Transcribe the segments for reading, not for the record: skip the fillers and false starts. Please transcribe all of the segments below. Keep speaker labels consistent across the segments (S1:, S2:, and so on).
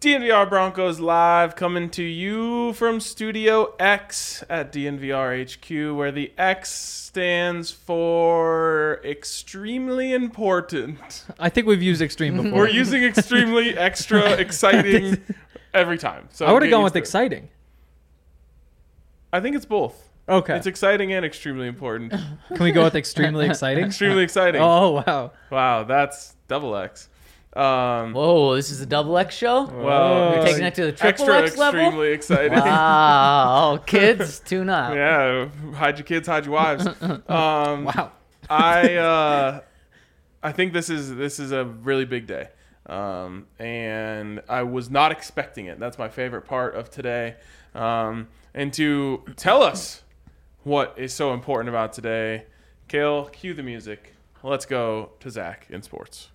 S1: DNVR Broncos live, coming to you from Studio X at DNVR HQ, where the X stands for extremely important.
S2: I think we've used extreme before.
S1: We're using extremely, extra, exciting every time. So
S2: I would have gone with exciting.
S1: I think it's both.
S2: Okay.
S1: It's exciting and extremely important.
S2: Can we go with extremely exciting?
S1: Extremely exciting.
S2: Oh, wow.
S1: Wow, that's double X.
S3: Whoa, this is a double X show?
S1: Well,
S3: You're taking it to the triple
S1: extra
S3: X level?
S1: extremely exciting.
S3: Wow, kids, tune up.
S1: Yeah, hide your kids, hide your wives.
S2: Wow.
S1: I think this is a really big day, and I was not expecting it. That's my favorite part of today. And to tell us what is so important about today, Kale, cue the music. Let's go to Zach in sports.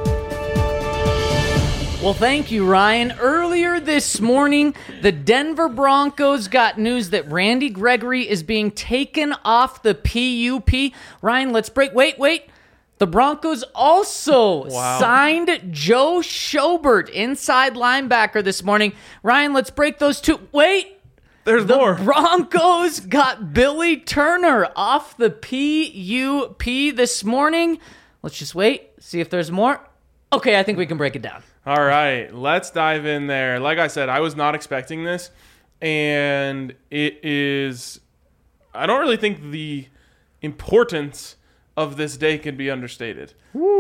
S3: Well, thank you, Ryan. Earlier this morning, the Denver Broncos got news that Randy Gregory is being taken off the PUP. Ryan, let's break. Wait. The Broncos also signed Joe Schobert, inside linebacker, this morning. Ryan, let's break those two. Wait.
S1: There's more.
S3: The Broncos got Billy Turner off the PUP this morning. Let's just wait, see if there's more. Okay, I think we can break it down.
S1: All right, let's dive in there. Like I said, I was not expecting this, and it is... I don't really think the importance of this day can be understated.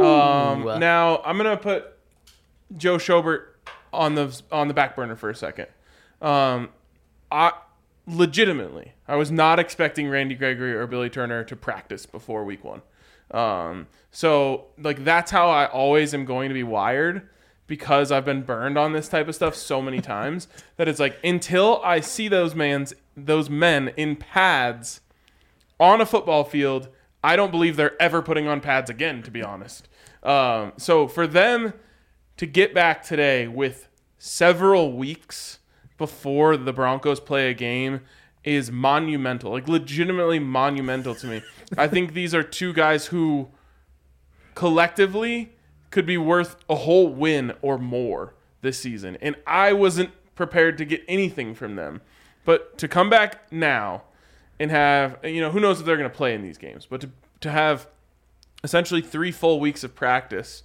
S1: Now, I'm going to put Joe Schobert on the back burner for a second. I was not expecting Randy Gregory or Billy Turner to practice before week one. So, that's how I always am going to be wired, because I've been burned on this type of stuff so many times that it's until I see those men in pads on a football field, I don't believe they're ever putting on pads again, to be honest. So for them to get back today with several weeks before the Broncos play a game is monumental, legitimately monumental to me. I think these are two guys who collectively could be worth a whole win or more this season. And I wasn't prepared to get anything from them. But to come back now and have, who knows if they're going to play in these games, but to have essentially 3 full weeks of practice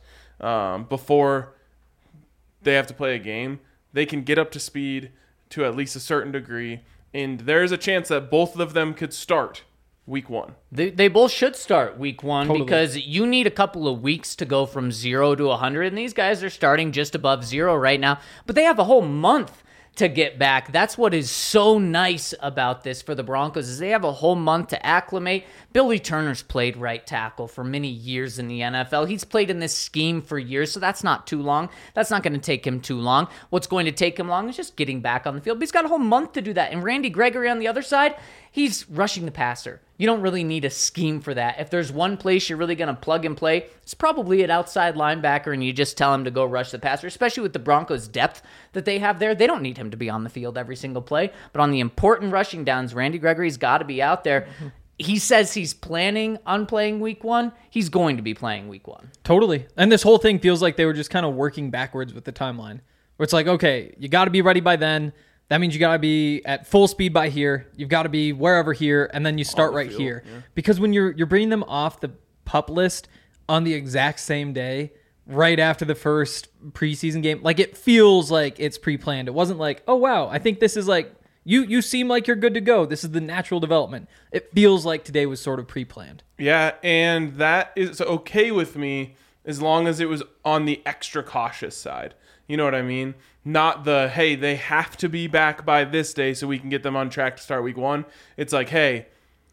S1: before they have to play a game, they can get up to speed to at least a certain degree. And there's a chance that both of them could start week one.
S3: They both should start week one,
S2: totally,
S3: because you need a couple of weeks to go from 0 to 100, and these guys are starting just above 0 right now, but they have a whole month to get back. That's what is so nice about this for the Broncos, is they have a whole month to acclimate. Billy Turner's played right tackle for many years in the NFL. He's played in this scheme for years, so that's not too long. That's not going to take him too long. What's going to take him long is just getting back on the field. But he's got a whole month to do that. And Randy Gregory on the other side, he's rushing the passer. You don't really need a scheme for that. If there's one place you're really going to plug and play, it's probably at outside linebacker, and you just tell him to go rush the passer, especially with the Broncos' depth that they have there. They don't need him to be on the field every single play. But on the important rushing downs, Randy Gregory's got to be out there. He says he's planning on playing week one. He's going to be playing week one.
S2: Totally. And this whole thing feels like they were just kind of working backwards with the timeline. Where it's okay, you got to be ready by then. That means you got to be at full speed by here. You've got to be wherever here, and then you start right here. Yeah. Because when you're bringing them off the PUP list on the exact same day, right after the first preseason game, it feels like it's pre-planned. It wasn't oh, wow, I think this is you seem like you're good to go. This is the natural development. It feels like today was sort of pre-planned.
S1: Yeah, and that is okay with me as long as it was on the extra cautious side. You know what I mean? Not the, hey, they have to be back by this day so we can get them on track to start week one. It's hey,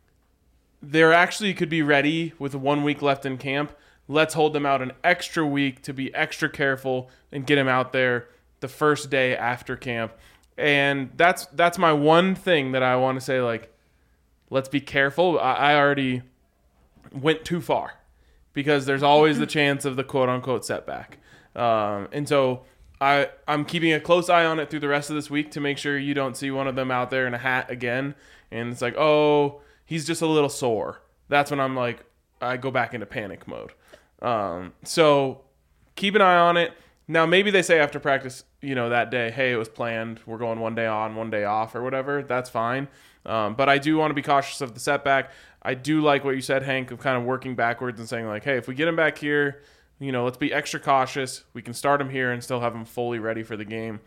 S1: they're actually could be ready with 1 week left in camp. Let's hold them out an extra week to be extra careful and get them out there the first day after camp. And that's my one thing that I want to say, let's be careful. I already went too far because there's always the chance of the quote-unquote setback. And so I'm keeping a close eye on it through the rest of this week to make sure you don't see one of them out there in a hat again. And it's oh, he's just a little sore. That's when I go back into panic mode. So keep an eye on it. Now, maybe they say after practice, that day, hey, it was planned. We're going one day on, one day off or whatever. That's fine. But I do want to be cautious of the setback. I do like what you said, Hank, of kind of working backwards and saying like, hey, if we get him back here, let's be extra cautious. We can start him here and still have him fully ready for the game.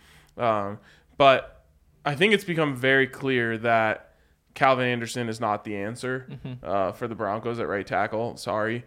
S1: But I think it's become very clear that Calvin Anderson is not the answer for the Broncos at right tackle. Sorry.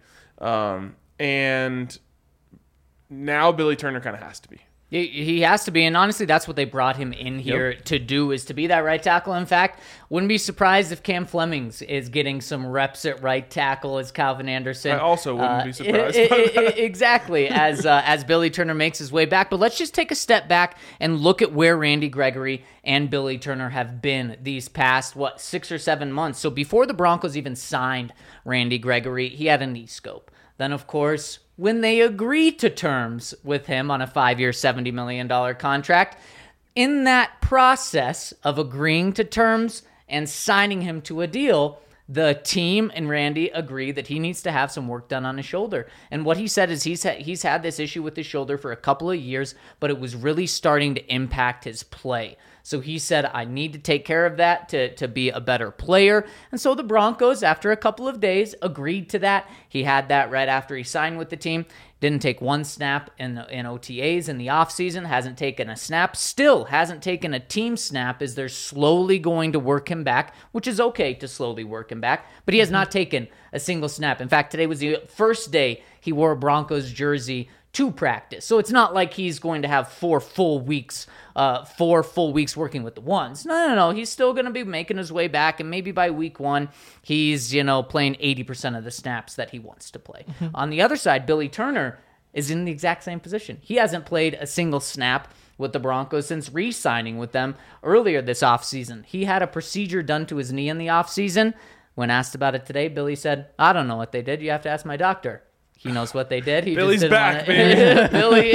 S1: And now Billy Turner kind of has to be.
S3: He has to be, and honestly, that's what they brought him in here to do, is to be that right tackle. In fact, wouldn't be surprised if Cam Flemings is getting some reps at right tackle as Calvin Anderson.
S1: I also wouldn't be surprised by that.
S3: Exactly, as Billy Turner makes his way back. But let's just take a step back and look at where Randy Gregory and Billy Turner have been these past, 6 or 7 months. So before the Broncos even signed Randy Gregory, he had a knee scope. Then, of course, when they agreed to terms with him on a 5-year, $70 million contract, in that process of agreeing to terms and signing him to a deal, the team and Randy agree that he needs to have some work done on his shoulder. And what he said is he's had this issue with his shoulder for a couple of years, but it was really starting to impact his play. So he said, I need to take care of that to be a better player. And so the Broncos, after a couple of days, agreed to that. He had that right after he signed with the team. Didn't take one snap in OTAs in the offseason. Hasn't taken a snap. Still hasn't taken a team snap as they're slowly going to work him back, which is okay to slowly work him back. But he has not taken a single snap. In fact, today was the first day he wore a Broncos jersey to practice. So it's not like he's going to have 4 full weeks working with the ones. No. He's still going to be making his way back, and maybe by week 1, he's, playing 80% of the snaps that he wants to play. On the other side, Billy Turner is in the exact same position. He hasn't played a single snap with the Broncos since re-signing with them earlier this offseason. He had a procedure done to his knee in the offseason. When asked about it today, Billy said, I don't know what they did. You have to ask my doctor. He knows what they did.
S1: Billy's back, baby.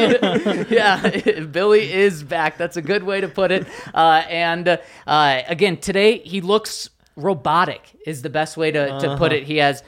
S3: Billy is back. That's a good way to put it. Again, today he looks robotic is the best way to put it. He has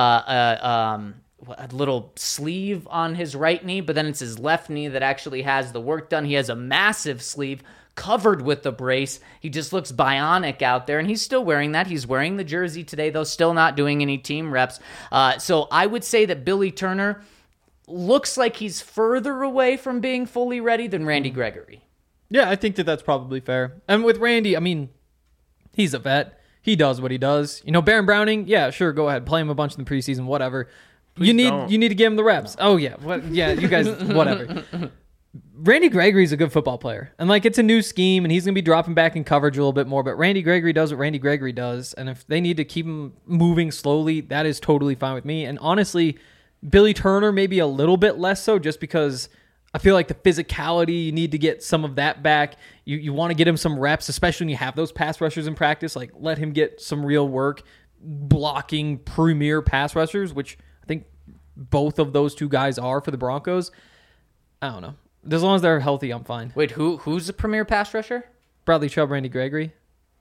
S3: a little sleeve on his right knee, but then it's his left knee that actually has the work done. He has a massive sleeve covered with the brace. He just looks bionic out there, and he's still wearing that. He's wearing the jersey today, though still not doing any team reps. So I would say that Billy Turner looks like he's further away from being fully ready than Randy Gregory.
S2: Yeah, I think that's probably fair. And with Randy, I mean, he's a vet. He does what he does. Baron Browning, yeah, sure, go ahead. Play him a bunch in the preseason, whatever. You need to give him the reps. No. Oh, yeah. You guys, whatever. Randy Gregory's a good football player. And, it's a new scheme, and he's going to be dropping back in coverage a little bit more. But Randy Gregory does what Randy Gregory does. And if they need to keep him moving slowly, that is totally fine with me. And honestly, Billy Turner maybe a little bit less so, just because I feel like the physicality, you need to get some of that back. You want to get him some reps, especially when you have those pass rushers in practice. Let him get some real work blocking premier pass rushers, which I think both of those two guys are for the Broncos. I don't know. As long as they're healthy, I'm fine.
S3: Wait, who's the premier pass rusher?
S2: Bradley Chubb, Randy Gregory.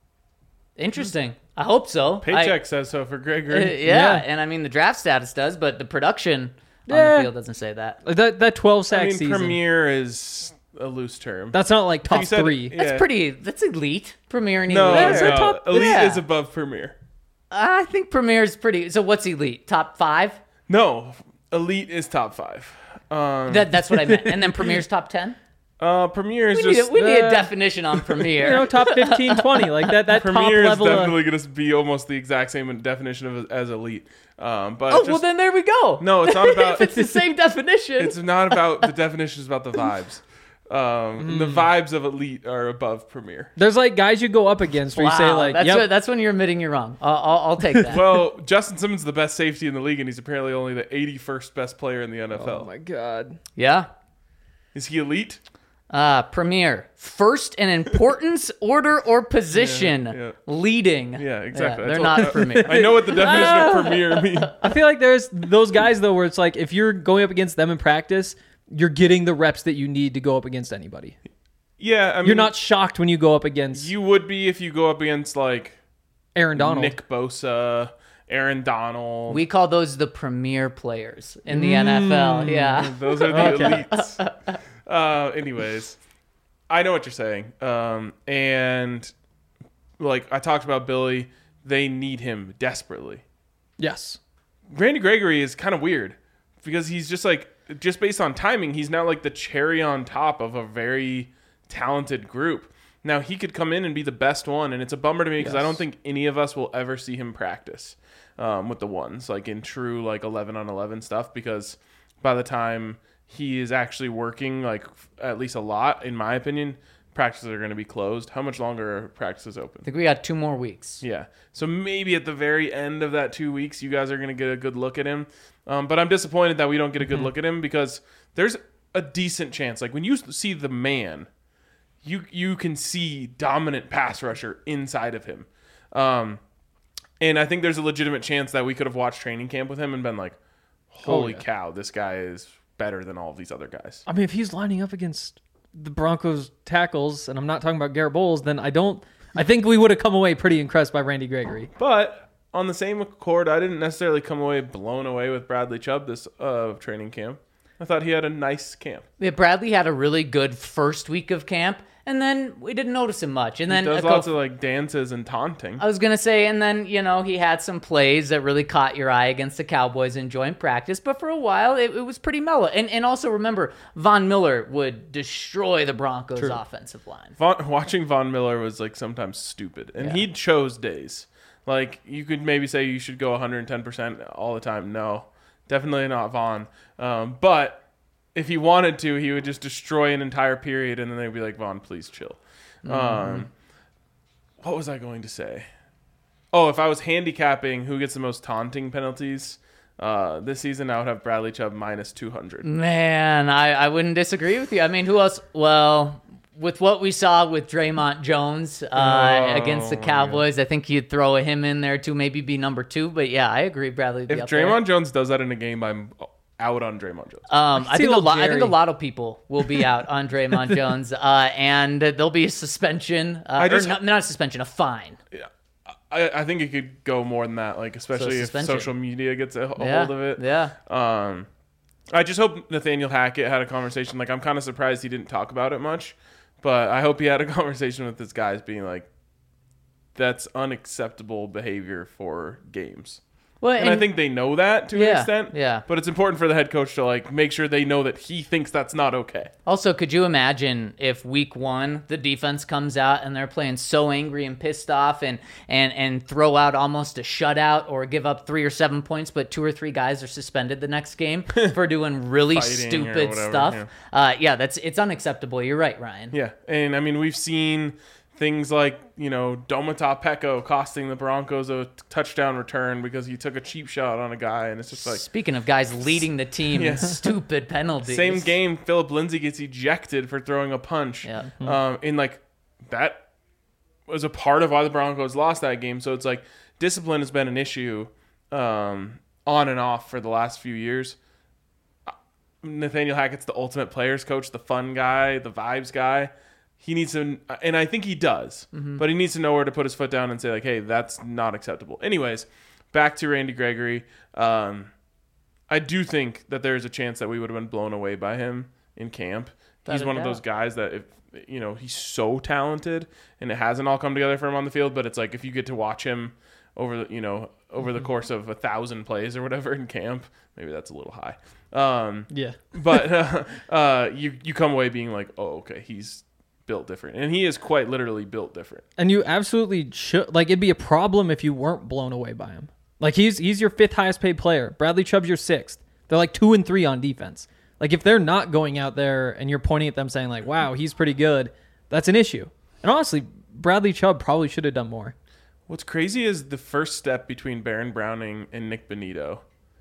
S3: Interesting. I hope so.
S1: Paycheck says so for Gregory.
S3: Yeah, and I mean the draft status does, but the production on the field doesn't say that.
S2: That 12 sack season.
S1: Premier is a loose term.
S2: That's not top 3.
S3: That's elite. Premier and elite.
S1: No, elite is above premier.
S3: I think premier is pretty. So what's elite? Top 5?
S1: No, elite is top 5.
S3: That's what I meant. And then premier's top 10?
S1: Premier is
S3: we need a definition on premier.
S2: Top 15, 20. That
S1: premier
S2: top
S1: is
S2: level.
S1: definitely going to be almost the exact same definition as elite.
S3: Well, then there we go.
S1: No, it's not about...
S3: if it's the same definition.
S1: It's not about the definition. It's about the vibes. The vibes of elite are above premier.
S2: There's guys you go up against where you say
S3: that's when you're admitting you're wrong. I'll take that.
S1: Well, Justin Simmons is the best safety in the league, and he's apparently only the 81st best player in the NFL.
S2: Oh my god.
S3: Yeah.
S1: Is he elite?
S3: Premier, first in importance, order, or position, leading.
S1: Yeah, exactly.
S3: They're not premier.
S1: I know what the definition of premier means.
S2: I feel like there's those guys though where it's if you're going up against them in practice, you're getting the reps that you need to go up against anybody.
S1: Yeah, I mean,
S2: you're not shocked when you go up against.
S1: You would be if you go up against
S2: Aaron Donald,
S1: Nick Bosa, Aaron Donald.
S3: We call those the premier players in the NFL. Yeah,
S1: those are the elites. Anyways, I know what you're saying. And like I talked about Billy, they need him desperately.
S2: Yes.
S1: Randy Gregory is kind of weird because he's just based on timing, he's now like the cherry on top of a very talented group. Now he could come in and be the best one, and it's a bummer to me because I don't think any of us will ever see him practice with the ones, like in true like 11-on-11 stuff, because by the time he is actually working, like at least a lot, in my opinion, practices are going to be closed. How much longer are practices open?
S3: I think we got 2 more weeks.
S1: Yeah. So maybe at the very end of that 2 weeks, you guys are going to get a good look at him. But I'm disappointed that we don't get a good look at him because there's a decent chance. Like when you see the man, you can see dominant pass rusher inside of him. And I think there's a legitimate chance that we could have watched training camp with him and been like, holy cow, this guy is better than all of these other guys.
S2: I mean, if he's lining up against the Broncos tackles, and I'm not talking about Garrett Bowles, then I think we would have come away pretty impressed by Randy Gregory.
S1: But on the same accord, I didn't necessarily come away blown away with Bradley Chubb this training camp. I thought he had a nice camp.
S3: Yeah, Bradley had a really good first week of camp, and then we didn't notice him much. And then
S1: He does lots of like dances and taunting.
S3: I was going to say, and then, he had some plays that really caught your eye against the Cowboys in joint practice, but for a while, it was pretty mellow. And also remember, Von Miller would destroy the Broncos' offensive line.
S1: Watching Von Miller was like sometimes stupid, and he chose days. Like you could maybe say you should go 110% all the time. No, definitely not Von. But if he wanted to, he would just destroy an entire period, and then they'd be like, Von, please chill. What was I going to say? Oh, if I was handicapping who gets the most taunting penalties this season, I would have Bradley Chubb minus 200.
S3: Man, I wouldn't disagree with you. I mean, who else? Well, with what we saw with Draymond Jones against the Cowboys, I think you'd throw him in there to maybe be number 2. But yeah, I agree, Bradley.
S1: If Draymond Jones does that in a game, I'm out on Draymond Jones.
S3: I think a lot of people will be out on Draymond Jones, and there'll be a suspension, not a suspension, a fine.
S1: Yeah. I think it could go more than that, like especially if social media gets a hold of it.
S3: Yeah.
S1: I just hope Nathaniel Hackett had a conversation. Like I'm kind of surprised he didn't talk about it much, but I hope he had a conversation with his guys, being like, "That's unacceptable behavior for games." Well, and I think they know that to an extent.
S3: Yeah.
S1: But it's important for the head coach to like make sure they know that he thinks that's not okay.
S3: Also, could you imagine if week 1 the defense comes out and they're playing so angry and pissed off and throw out almost a shutout or give up 3 or 7 points, but 2 or 3 guys are suspended the next game for doing really stupid stuff? Yeah, it's unacceptable. You're right, Ryan.
S1: Yeah, and I mean we've seen things like, Domata Peko costing the Broncos a touchdown return because he took a cheap shot on a guy, and it's just like...
S3: Speaking of guys leading the team in stupid penalties.
S1: Same game, Philip Lindsay gets ejected for throwing a punch.
S3: Yeah.
S1: And, that was a part of why the Broncos lost that game. So it's like discipline has been an issue on and off for the last few years. Nathaniel Hackett's the ultimate players coach, the fun guy, the vibes guy. He needs to, and I think he does, but he needs to know where to put his foot down and say, like, hey, that's not acceptable. Anyways, back to Randy Gregory. I do think that there's a chance that we would have been blown away by him in camp. He's one of those guys that, if he's so talented, and it hasn't all come together for him on the field, but it's like if you get to watch him over the course of 1,000 plays or whatever in camp, maybe that's a little high. But you come away being like, oh, okay, he's built different, and he is quite literally built different.
S2: And you absolutely should. Like, it'd be a problem if you weren't blown away by him. Like, he's your 5th highest paid player. Bradley Chubb's your 6th. They're like 2 and 3 on defense. Like, if they're not going out there and you're pointing at them saying like, wow, he's pretty good, that's an issue. And honestly, Bradley Chubb probably should have done more.
S1: What's crazy is the first step between Baron Browning and Nick Bonito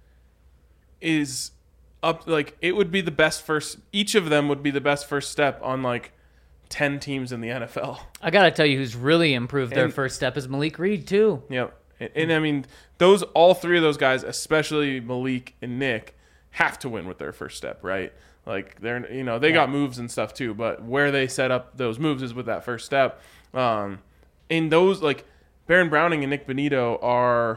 S1: is up. Like, it would be the best first. Each of them would be the best first step on like 10 teams in the NFL.
S3: I got to tell you who's really improved their first step is Malik Reed, too.
S1: Yep. And I mean, all 3 of those guys, especially Malik and Nick, have to win with their first step, right? Like, they're, they got moves and stuff too, but where they set up those moves is with that first step. And those, like, Baron Browning and Nick Bonito are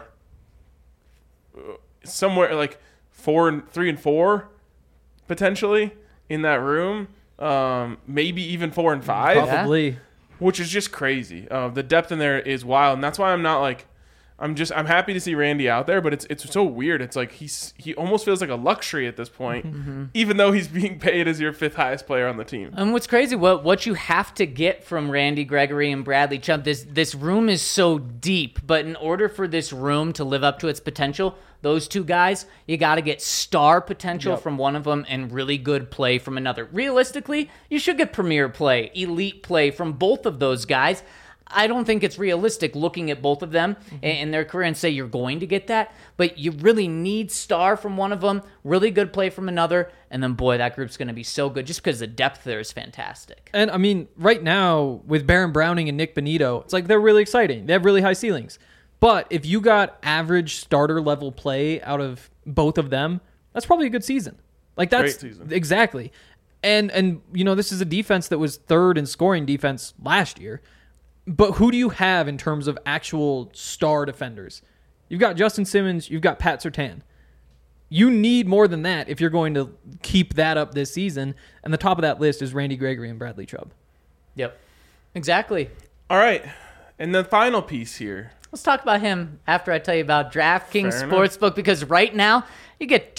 S1: somewhere like 3 and 4 potentially in that room. maybe even 4 and 5,
S2: Probably.
S1: which is just crazy. The depth in there is wild, and that's why I'm not like. I'm happy to see Randy out there, but it's so weird. It's like he almost feels like a luxury at this point, even though he's being paid as your 5th highest player on the team.
S3: And what's crazy, what you have to get from Randy Gregory and Bradley Chubb, this room is so deep, but in order for this room to live up to its potential, those two guys, you got to get star potential from one of them and really good play from another. Realistically, you should get premier play, elite play from both of those guys. I don't think it's realistic looking at both of them in their career and say you're going to get that, but you really need star from one of them, really good play from another, and then, boy, that group's going to be so good just because the depth there is fantastic.
S2: And, I mean, right now, with Baron Browning and Nick Bonito, it's like they're really exciting. They have really high ceilings. But if you got average starter-level play out of both of them, that's probably a good season. Like, that's...
S1: Great season.
S2: Exactly. And you know, this is a defense that was 3rd in scoring defense last year. But who do you have in terms of actual star defenders? You've got Justin Simmons. You've got Pat Surtain. You need more than that if you're going to keep that up this season. And the top of that list is Randy Gregory and Bradley Chubb.
S3: Yep. Exactly.
S1: All right, and the final piece here.
S3: Let's talk about him after I tell you about DraftKings
S1: Fair
S3: Sportsbook, because right now you get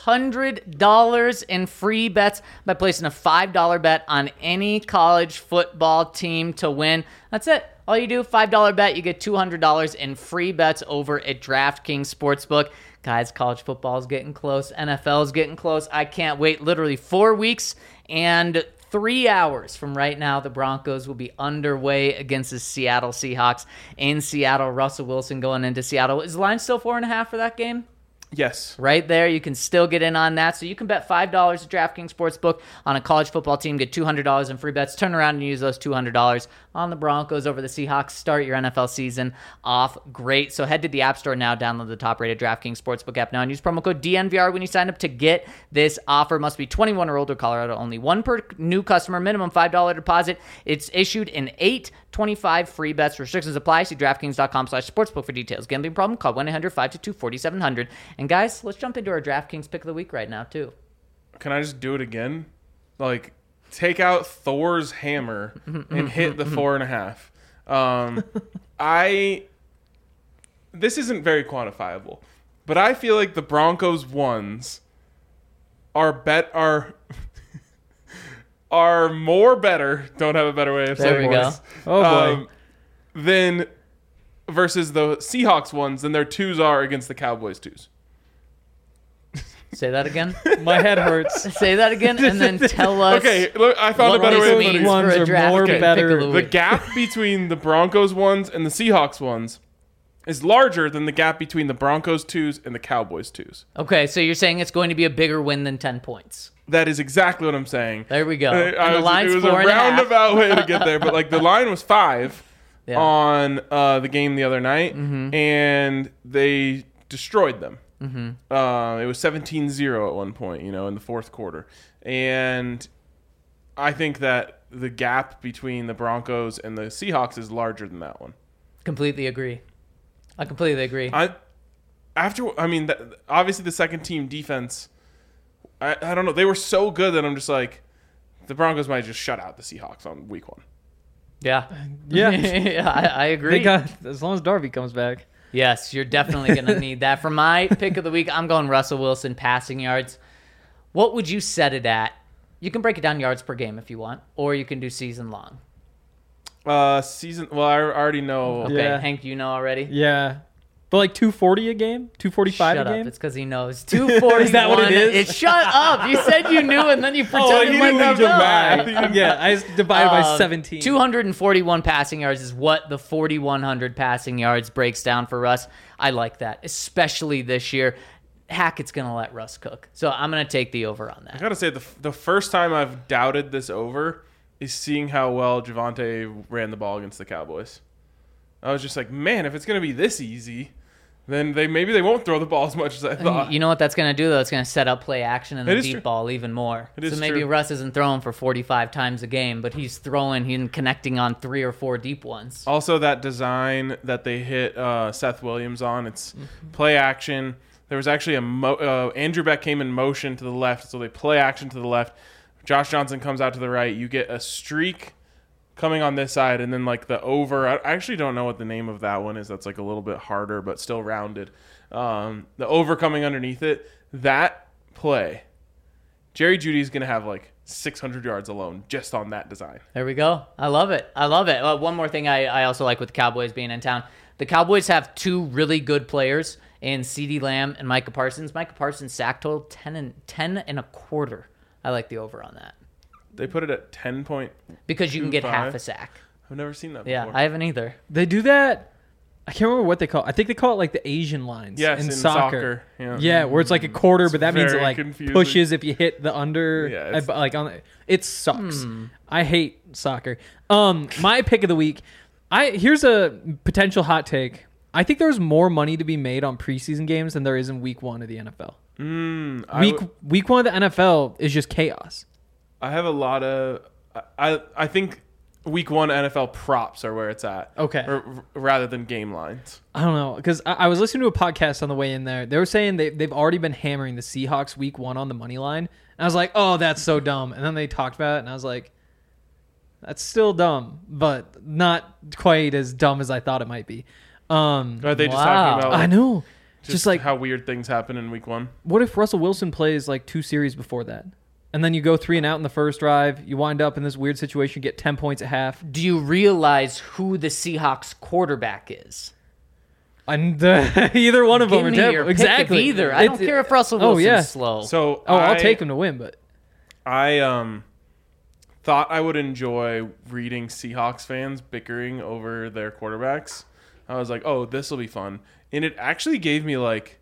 S3: $200 in free bets by placing a $5 bet on any college football team to win. That's it. All you do, $5 bet, you get $200 in free bets over at DraftKings Sportsbook. Guys, college football is getting close. NFL is getting close. I can't wait. Literally 4 weeks and 3 hours from right now, the Broncos will be underway against the Seattle Seahawks in Seattle. Russell Wilson going into Seattle. Is the line still 4.5 for that game?
S1: Yes.
S3: Right there, you can still get in on that. So you can bet $5 at DraftKings Sportsbook on a college football team, get $200 in free bets, turn around and use those $200 on the Broncos over the Seahawks. Start your NFL season off great. So head to the App Store now, download the top-rated DraftKings Sportsbook app now, and use promo code DNVR when you sign up to get this offer. Must be 21 or older, Colorado only. One per new customer, minimum $5 deposit. It's issued in 825 free bets. Restrictions apply. See DraftKings.com/sportsbook for details. Gambling problem? Call 1-800-522-4700. And guys, let's jump into our DraftKings pick of the week right now, too.
S1: Can I just do it again? Like, take out Thor's hammer and hit the 4.5. This isn't very quantifiable, but I feel like the Broncos ones are more better. Don't have a better way of saying
S3: There we
S1: this.
S3: go.
S2: Oh, boy.
S1: Than versus the Seahawks ones than their 2s are against the Cowboys 2s.
S3: Say that again.
S2: My head hurts.
S3: Say that again, and then tell us.
S1: Okay, look, I found a
S3: what
S1: better
S3: this
S1: way of
S3: means
S1: putting it.
S2: Ones
S3: for a
S2: are
S3: draft
S2: more
S3: pick
S2: better.
S3: of the
S1: The
S3: week.
S1: gap between the Broncos ones and the Seahawks ones is larger than the gap between the Broncos 2s and the Cowboys 2s.
S3: Okay, so you're saying it's going to be a bigger win than 10 points.
S1: That is exactly what I'm saying.
S3: There we go.
S1: It
S3: And the line's
S1: was a
S3: 4.5.
S1: roundabout way to get there, but like the line was 5
S3: Yeah.
S1: on the game the other night, and they destroyed them. It was 17-0 at one point, in the fourth quarter. And I think that the gap between the Broncos and the Seahawks is larger than that one.
S3: Completely agree. I completely agree.
S1: Obviously the second team defense, I don't know. They were so good that I'm just like, the Broncos might just shut out the Seahawks on week 1.
S3: Yeah.
S2: Yeah.
S3: Yeah, I agree.
S2: They got, as long as Darby comes back.
S3: Yes, you're definitely going to need that. For my pick of the week, I'm going Russell Wilson passing yards. What would you set it at? You can break it down yards per game if you want, or you can do season long.
S1: Well, I already know.
S3: Okay,
S2: Yeah.
S3: Hank, you know already?
S2: Yeah. But like 240 a game? 245
S3: Shut
S2: a
S3: up.
S2: game?
S3: It's because he knows. 241.
S2: Is that what it is?
S3: Shut up. You said you knew, and then you
S1: he
S3: pretended like
S1: didn't
S3: you
S1: have the
S3: know.
S1: math.
S2: Yeah, I just divided by 17.
S3: 241 passing yards is what the 4,100 passing yards breaks down for Russ. I like that, especially this year. Hackett's going to let Russ cook. So I'm going to take the over on
S1: I
S3: that.
S1: gotta say, the first time I've doubted this over is seeing how well Javonte ran the ball against the Cowboys. I was just like, man, if it's gonna be this easy, then maybe they won't throw the ball as much as I thought.
S3: You know what that's going to do, though? It's going to set up play action and
S1: It
S3: the
S1: is
S3: deep
S1: true.
S3: ball even more.
S1: It is
S3: So maybe
S1: true.
S3: Russ isn't throwing for 45 times a game, but he's connecting on 3 or 4 deep ones.
S1: Also, that design that they hit Seth Williams on, it's play action. There was actually Andrew Beck came in motion to the left, so they play action to the left. Josh Johnson comes out to the right. You get a streak coming on this side, and then like the over. I actually don't know what the name of that one is. That's like a little bit harder, but still rounded. The over coming underneath it. That play, Jerry Jeudy's going to have like 600 yards alone just on that design.
S3: There we go. I love it. One more thing I also like with the Cowboys being in town. The Cowboys have two really good players in CeeDee Lamb and Micah Parsons. Micah Parsons' sack total, 10 and a quarter. I like the over on that.
S1: They put it at 10 point.
S3: Because you can get half a sack.
S1: I've never seen that before.
S3: Yeah, I haven't either.
S2: They do that. I can't remember what they call it. I think they call it like the Asian lines in soccer.
S1: Yeah,
S2: where it's like a quarter, but that means it like
S1: confusing.
S2: pushes if you hit the under.
S1: Yeah,
S2: it sucks. I hate soccer. My pick of the week. Here's a potential hot take. I think there's more money to be made on preseason games than there is in week 1 of the NFL. Week 1 of the NFL is just chaos.
S1: I have a lot of. I think week 1 NFL props are where it's at.
S2: Okay.
S1: Rather than game lines.
S2: I don't know, because I was listening to a podcast on the way in there. They were saying they've already been hammering the Seahawks week 1 on the money line. And I was like, oh, that's so dumb. And then they talked about it, and I was like, that's still dumb, but not quite as dumb as I thought it might be.
S1: Are they just talking about?
S2: I know.
S1: Just like how weird things happen in week 1.
S2: What if Russell Wilson plays like 2 series before that? And then you go 3 and out in the first drive. You wind up in this weird situation, get 10 points at half.
S3: Do you realize who the Seahawks quarterback is?
S2: Either one of them are terrible.
S3: Exactly. Either. I don't care if Russell Wilson's slow.
S1: So
S2: I'll take him to win, but
S1: I thought I would enjoy reading Seahawks fans bickering over their quarterbacks. I was like, oh, this will be fun. And it actually gave me like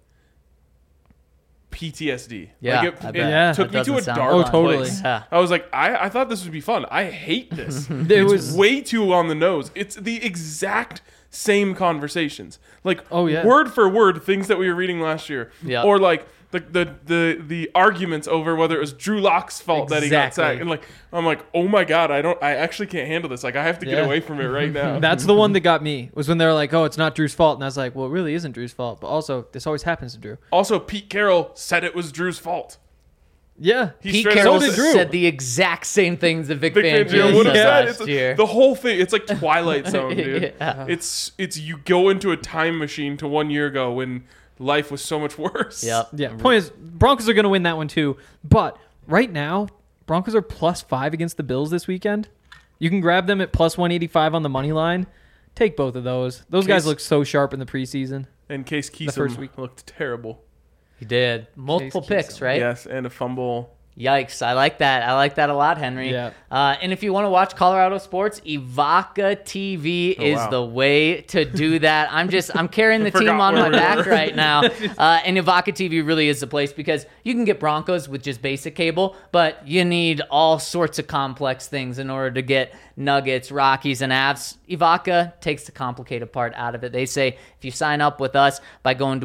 S1: PTSD.
S3: Yeah,
S1: like it took me to a dark place.
S3: Yeah.
S1: I was like, I thought this would be fun. I hate this.
S2: It was
S1: way too on the nose. It's the exact same conversations. Like word for word things that we were reading last year.
S3: Yeah.
S1: Or like the arguments over whether it was Drew Lock's fault that he got sacked. And like I'm like, oh my God, I actually can't handle this. Like I have to get away from it right now.
S2: That's the one that got me, was when they were like, oh, it's not Drew's fault. And I was like, well, it really isn't Drew's fault. But also, this always happens to Drew.
S1: Also, Pete Carroll said it was Drew's fault.
S2: Yeah.
S3: Pete Carroll said the exact same things that Vic Fangio
S1: would have
S3: said
S1: last
S3: year.
S1: The whole thing, it's like Twilight Zone, dude.
S3: Yeah.
S1: It's you go into a time machine to 1 year ago when life was so much worse.
S3: Yep.
S2: Yeah. Point is, Broncos are going to win that one too. But right now, Broncos are +5 against the Bills this weekend. You can grab them at +185 on the money line. Take both of those. Those guys look so sharp in the preseason.
S1: And Case Keenum looked terrible.
S3: He did. Multiple picks, right?
S1: Yes, and a fumble.
S3: Yikes. I like that. I like that a lot, Henry.
S2: Yeah.
S3: And if you want to watch Colorado sports, Evoca TV is the way to do that. I'm carrying the team on my back right now. And Evoca TV really is the place because you can get Broncos with just basic cable, but you need all sorts of complex things in order to get Nuggets, Rockies, and Avs. Evoca takes the complicated part out of it. They say if you sign up with us by going to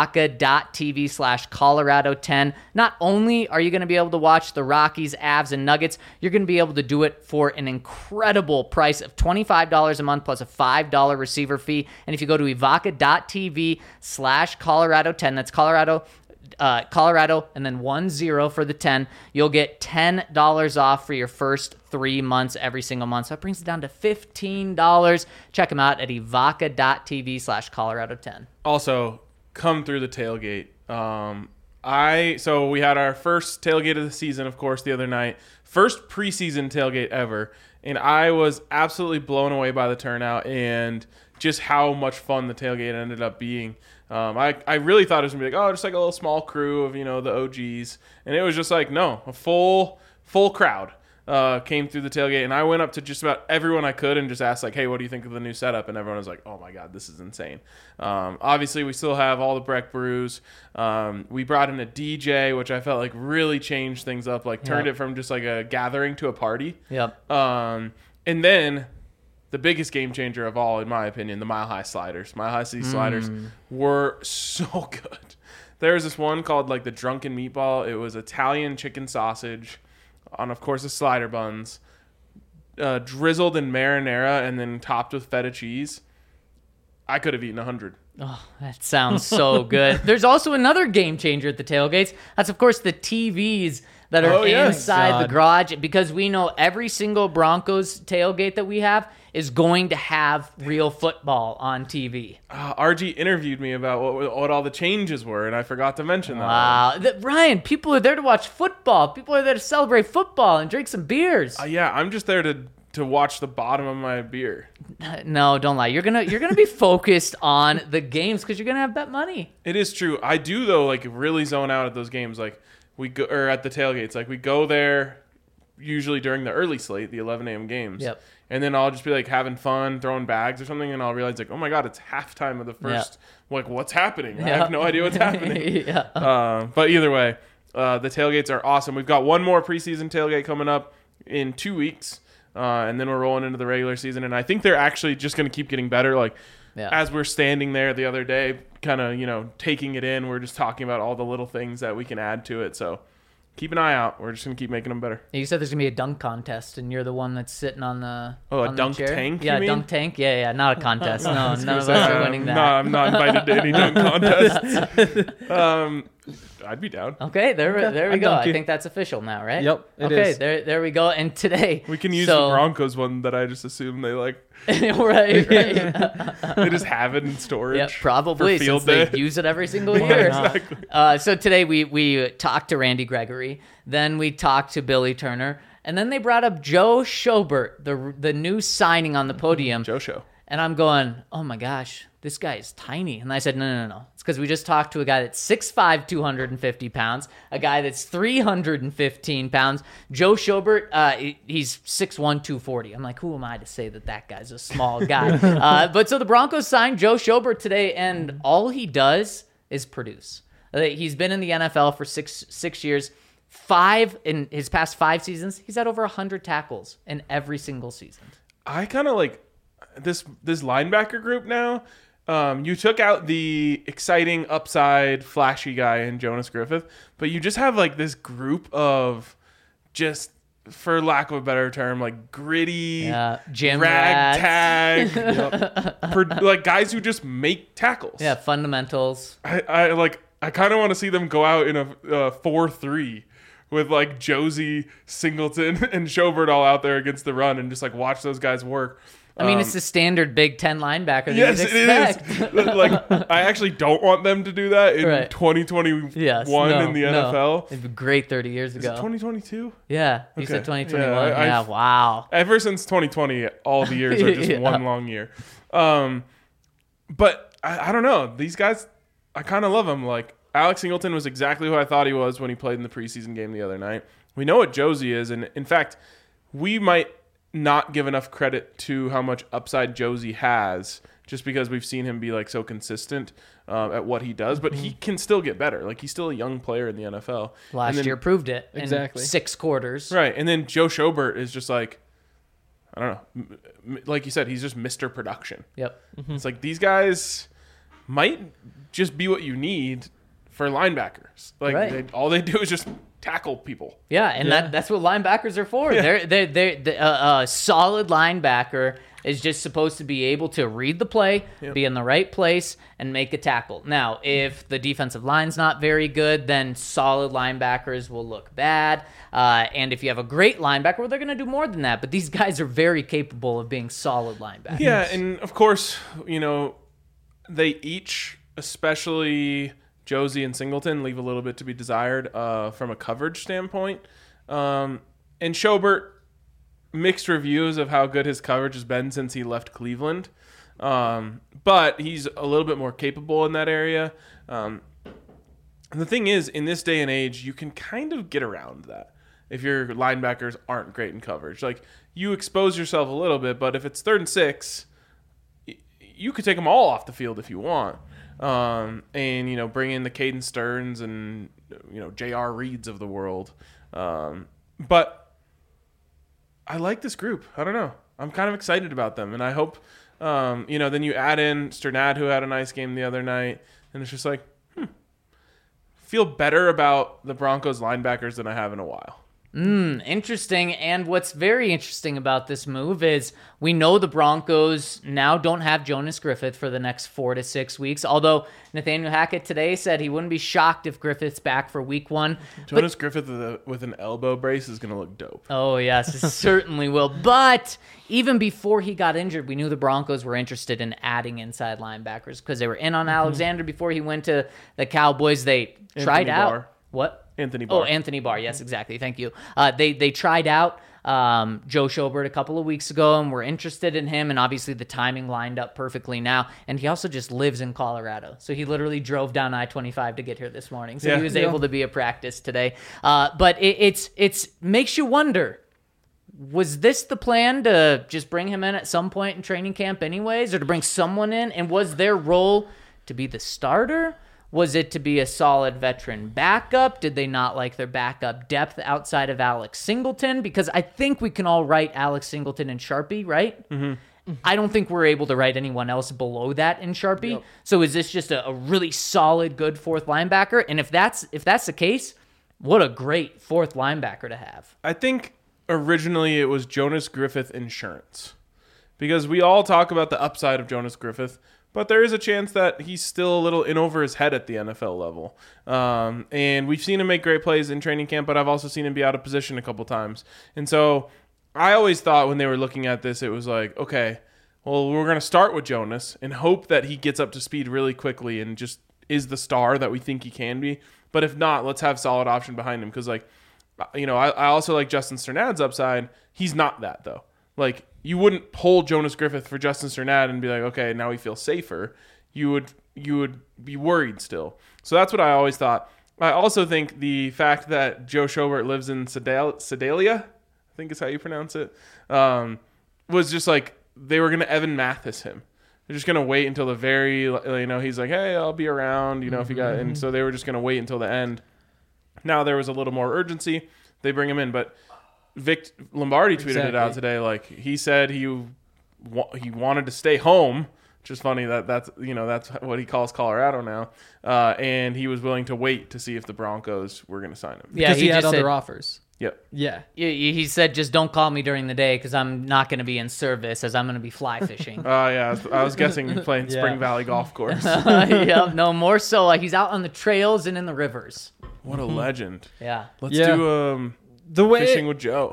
S3: evoca.tv/Colorado10, not only are you going to be able to watch the Rockies, Avs, and Nuggets, you're going to be able to do it for an incredible price of $25 a month plus a $5 receiver fee. And if you go to evoca.tv/Colorado10, that's Colorado and then 10 for the 10, you'll get $10 off for your first 3 months every single month. So that brings it down to $15. Check them out at evoca.tv/Colorado10.
S1: Also, come through the tailgate. So we had our first tailgate of the season, of course, the other night. First preseason tailgate ever. And I was absolutely blown away by the turnout and just how much fun the tailgate ended up being. I really thought it was going to be like, just like a little small crew of, the OGs. And it was just like, no, a full crowd came through the tailgate. And I went up to just about everyone I could and just asked, like, hey, what do you think of the new setup? And everyone was like, oh, my God, this is insane. Obviously, we still have all the Breck brews. We brought in a DJ, which I felt like really changed things up, like turned it from just like a gathering to a party.
S3: Yep.
S1: And then the biggest game changer of all, in my opinion, the Mile High sliders. Mile High City sliders were so good. There was this one called like the Drunken Meatball. It was Italian chicken sausage on, of course, the slider buns, drizzled in marinara and then topped with feta cheese. I could have eaten 100.
S3: Oh, that sounds so good. There's also another game changer at the tailgates. That's, of course, the TVs that are inside the garage, because we know every single Broncos tailgate that we have is going to have real football on TV.
S1: RG interviewed me about what all the changes were, and I forgot to mention that.
S3: Wow. Ryan, people are there to watch football. People are there to celebrate football and drink some beers.
S1: Yeah, I'm just there to watch the bottom of my beer.
S3: No, don't lie. You're gonna be focused on the games because you're gonna have bet money.
S1: It is true. I do though, like really zone out at those games. Like we go or at the tailgates. Like we go there usually during the early slate, the 11 a.m. games.
S3: Yep.
S1: And then I'll just be like having fun, throwing bags or something, and I'll realize like, oh my god, it's halftime of the first. Like, what's happening? I have no idea what's happening. But either way, the tailgates are awesome. We've got one more preseason tailgate coming up in 2 weeks. And then we're rolling into the regular season, and I think they're actually just going to keep getting better. Like, as we're standing there the other day, kind of, taking it in, we're just talking about all the little things that we can add to it. So keep an eye out. We're just going to keep making them better.
S3: You said there's going to be a dunk contest, and you're the one that's sitting on the
S1: a dunk tank?
S3: Yeah,
S1: you mean?
S3: Dunk tank. Yeah, not a contest. No, none of us are winning that.
S1: No, I'm not invited to any dunk contests. I'd be down.
S3: Okay, there we go. I think that's official now, right?
S2: Yep, it is.
S3: There we go. And today
S1: we can use the Broncos one that I just assume they like.
S3: right.
S1: They just have it in storage.
S3: Yeah, probably
S1: for field
S3: since
S1: day.
S3: they use it every single year.
S1: Exactly.
S3: So today we talked to Randy Gregory, then we talked to Billy Turner, and then they brought up Joe Schobert, the new signing on the podium.
S1: Joe Show.
S3: And I'm going, oh my gosh, this guy is tiny. And I said, no. It's because we just talked to a guy that's 6'5", 250 pounds, a guy that's 315 pounds. Joe Schobert, he's 6'1", 240. I'm like, who am I to say that guy's a small guy? But so the Broncos signed Joe Schobert today, and all he does is produce. He's been in the NFL for six years. In his past 5 seasons, he's had over 100 tackles in every single season.
S1: I kind of like this linebacker group now. You took out the exciting upside flashy guy in Jonas Griffith, but you just have like this group of just, for lack of a better term, like gritty,
S3: gym
S1: ragtag, like guys who just make tackles.
S3: Yeah, fundamentals.
S1: I kind of want to see them go out in a 4-3 with like Josie, Singleton, and Schobert all out there against the run and just like watch those guys work.
S3: I mean, it's the standard Big Ten linebacker that
S1: yes,
S3: you'd expect.
S1: It is. Like, I actually don't want them to do that in 2021 in the NFL.
S3: It'd be great 30 years ago.
S1: Is it 2022?
S3: Yeah, you said 2021.
S1: Yeah,
S3: wow.
S1: Ever since 2020, all the years are just one long year. But I don't know. These guys, I kind of love them. Like, Alex Singleton was exactly who I thought he was when he played in the preseason game the other night. We know what Josie is, and in fact, we might not give enough credit to how much upside Josie has just because we've seen him be like so consistent at what he does, but he can still get better. Like, he's still a young player in the NFL.
S3: Last year proved it
S2: exactly
S3: in 6 quarters.
S1: Right. And then Joe Schobert is just like, I don't know, like you said, he's just Mr. Production.
S3: Yep.
S1: It's like these guys might just be what you need for linebackers. Like all they do is just tackle people.
S3: Yeah, and that's what linebackers are for.
S1: Yeah.
S3: They're a solid linebacker is just supposed to be able to read the play, be in the right place, and make a tackle. Now, if the defensive line's not very good, then solid linebackers will look bad. And if you have a great linebacker, well, they're going to do more than that. But these guys are very capable of being solid linebackers.
S1: Yeah, and of course, they each, especially Josie and Singleton, leave a little bit to be desired from a coverage standpoint. And Schobert, mixed reviews of how good his coverage has been since he left Cleveland. But he's a little bit more capable in that area. And the thing is, in this day and age, you can kind of get around that if your linebackers aren't great in coverage. Like, you expose yourself a little bit, but if it's 3rd and 6, you could take them all off the field if you want. And bring in the Caden Stearns and J.R. Reeds of the world. But I like this group. I don't know. I'm kind of excited about them, and I hope then you add in Sternad, who had a nice game the other night, and it's just like feel better about the Broncos linebackers than I have in a while.
S3: Interesting. And what's very interesting about this move is we know the Broncos now don't have Jonas Griffith for the next 4 to 6 weeks. Although Nathaniel Hackett today said he wouldn't be shocked if Griffith's back for week 1.
S1: Jonas Griffith with an elbow brace is going to look dope.
S3: Oh, yes, it certainly will. But even before he got injured, we knew the Broncos were interested in adding inside linebackers because they were in on Alexander before he went to the Cowboys. They tried out.
S1: Barr.
S3: What?
S1: Anthony Barr.
S3: Oh, Anthony Barr. Yes, exactly. Thank you. They tried out Joe Schobert a couple of weeks ago and were interested in him. And obviously the timing lined up perfectly now. And he also just lives in Colorado. So he literally drove down I-25 to get here this morning. So he was able to be at practice today. But it's makes you wonder, was this the plan to just bring him in at some point in training camp anyways, or to bring someone in? And was their role to be the starter? Was it to be a solid veteran backup? Did they not like their backup depth outside of Alex Singleton? Because I think we can all write Alex Singleton and Sharpie, right? Mm-hmm. I don't think we're able to write anyone else below that in Sharpie. Yep. So is this just a really solid, good fourth linebacker? And if that's the case, what a great fourth linebacker to have.
S1: I think originally it was Jonas Griffith insurance. Because we all talk about the upside of Jonas Griffith, but there is a chance that he's still a little in over his head at the NFL level. And we've seen him make great plays in training camp, but I've also seen him be out of position a couple times. And so I always thought when they were looking at this, it was like, okay, well, we're going to start with Jonas and hope that he gets up to speed really quickly and just is the star that we think he can be. But if not, let's have solid option behind him. Because, like, you know, I also like Justin Cernad's upside. He's not that, though. Like, you wouldn't pull Jonas Griffith for Justin Cernad and be like, okay, now we feel safer. You would be worried still. So that's what I always thought. I also think the fact that Joe Schobert lives in Sedalia, I think is how you pronounce it, was just like they were going to Evan Mathis him. They're just going to wait until the very, you know, he's like, hey, I'll be around, you know, if you got, and so they were just going to wait until the end. Now there was a little more urgency. They bring him in, but Vic Lombardi tweeted it out today. Like, he said he wanted to stay home, which is funny that's what he calls Colorado now. And he was willing to wait to see if the Broncos were going to sign him.
S2: Yeah, because he had other offers.
S1: Yep.
S2: Yeah.
S3: He said, just don't call me during the day because I'm not going to be in service as I'm going to be fly fishing.
S1: Yeah. I was guessing playing Spring Valley Golf Course.
S3: No, more so. He's out on the trails and in the rivers.
S1: What a legend.
S3: Yeah.
S1: Let's do fishing with Joe.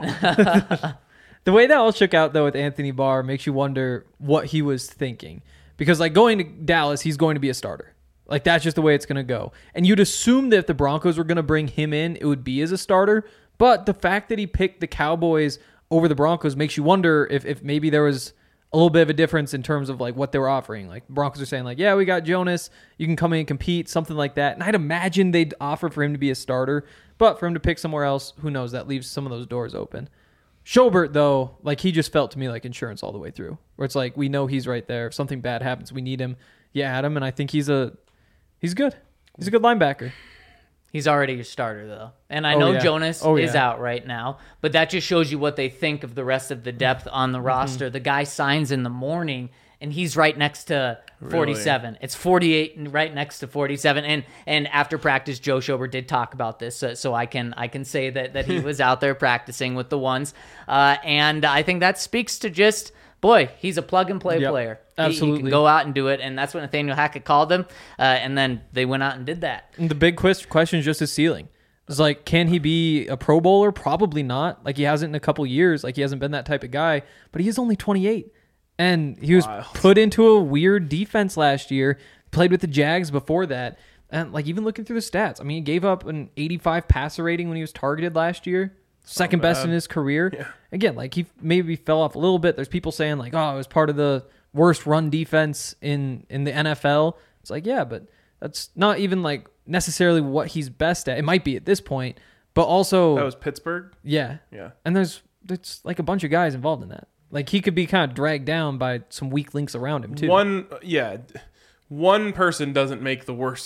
S2: The way that all shook out, though, with Anthony Barr makes you wonder what he was thinking. Because, like, going to Dallas, he's going to be a starter. Like, that's just the way it's going to go. And you'd assume that if the Broncos were going to bring him in, it would be as a starter. But the fact that he picked the Cowboys over the Broncos makes you wonder if maybe there was a little bit of a difference in terms of, like, what they were offering. Like, Broncos are saying, like, yeah, we got Jonas. You can come in and compete, something like that. And I'd imagine they'd offer for him to be a starter. But for him to pick somewhere else, who knows? That leaves some of those doors open. Schobert, though, like, he just felt to me like insurance all the way through. Where it's like, we know he's right there. If something bad happens, we need him. You add him, and I think he's good. He's a good linebacker.
S3: He's already your starter, though. And I know Jonas is out right now, but that just shows you what they think of the rest of the depth on the roster. The guy signs in the morning, and he's right next to 47. Really? It's 48 and right next to 47. And after practice, Joe Schobert did talk about this, so I can say that he was out there practicing with the ones. And I think that speaks to just, boy, he's a plug-and-play player.
S2: Absolutely.
S3: He can go out and do it, and that's what Nathaniel Hackett called him, and then they went out and did that.
S2: And the big question is just his ceiling. It's like, can he be a Pro Bowler? Probably not. Like, he hasn't in a couple years. Like, he hasn't been that type of guy, but he is only 28. And he was put into a weird defense last year, played with the Jags before that. And, like, even looking through the stats, I mean, he gave up an 85 passer rating when he was targeted last year. Second best in his career. Yeah. Again, like, he maybe fell off a little bit. There's people saying, like, oh, it was part of the worst run defense in the NFL. It's like, yeah, but that's not even, like, necessarily what he's best at. It might be at this point, but also...
S1: That was Pittsburgh?
S2: Yeah.
S1: Yeah.
S2: And there's like a bunch of guys involved in that. Like, he could be kind of dragged down by some weak links around him, too.
S1: One person doesn't make the worst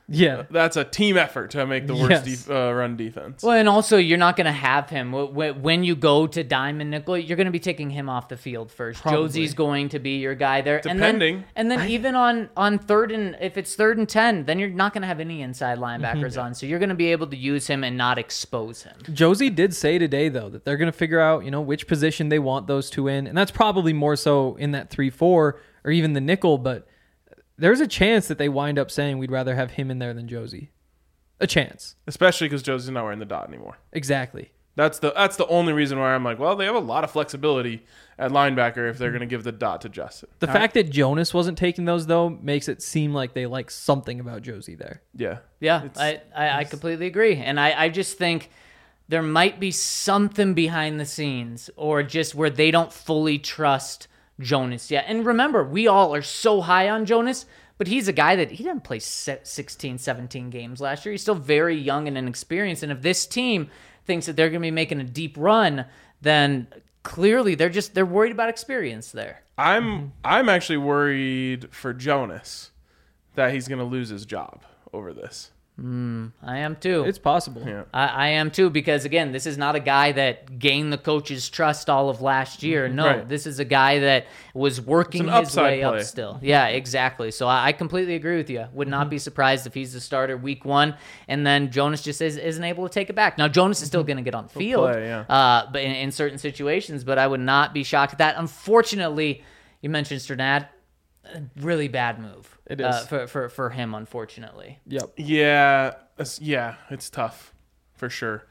S2: Yeah.
S1: That's a team effort to make the worst run defense.
S3: Well, and also you're not going to have him when you go to diamond nickel. You're going to be taking him off the field first.
S2: Probably.
S3: Josie's going to be your guy there,
S1: Depending.
S3: and then even on third and if it's 3rd and 10, then you're not going to have any inside linebackers on, so you're going to be able to use him and not expose him.
S2: Josie did say today, though, that they're going to figure out, which position they want those two in. And that's probably more so in that 3-4 or even the nickel. But there's a chance that they wind up saying we'd rather have him in there than Josie. A chance.
S1: Especially because Josie's not wearing the dot anymore.
S2: Exactly.
S1: That's the only reason why I'm like, well, they have a lot of flexibility at linebacker if they're going to give the dot to Justin.
S2: The fact that Jonas wasn't taking those, though, makes it seem like they like something about Josie there.
S1: Yeah.
S3: Yeah, I completely agree. And I just think there might be something behind the scenes or just where they don't fully trust Jonas yet. And remember, we all are so high on Jonas, but he's a guy that he didn't play 16, 17 games last year. He's still very young and inexperienced. And if this team thinks that they're going to be making a deep run, then clearly they're worried about experience there.
S1: I'm actually worried for Jonas that he's going to lose his job over this.
S3: I am too.
S2: It's possible.
S1: Yeah.
S3: I am too, because again, this is not a guy that gained the coach's trust all of last year. No,
S1: Right.
S3: This is a guy that was working
S1: It's an
S3: his way
S1: upside play.
S3: up still. Yeah, exactly. So I completely agree with you. Would not be surprised if he's the starter week 1 and then Jonas just isn't able to take it back. Now, Jonas is still going to get on the field,
S1: play, yeah.
S3: but in certain situations, but I would not be shocked at that. Unfortunately, you mentioned Sternad. Really bad move.
S2: It is.
S3: For him, unfortunately.
S2: Yep.
S1: Yeah, it's tough for sure.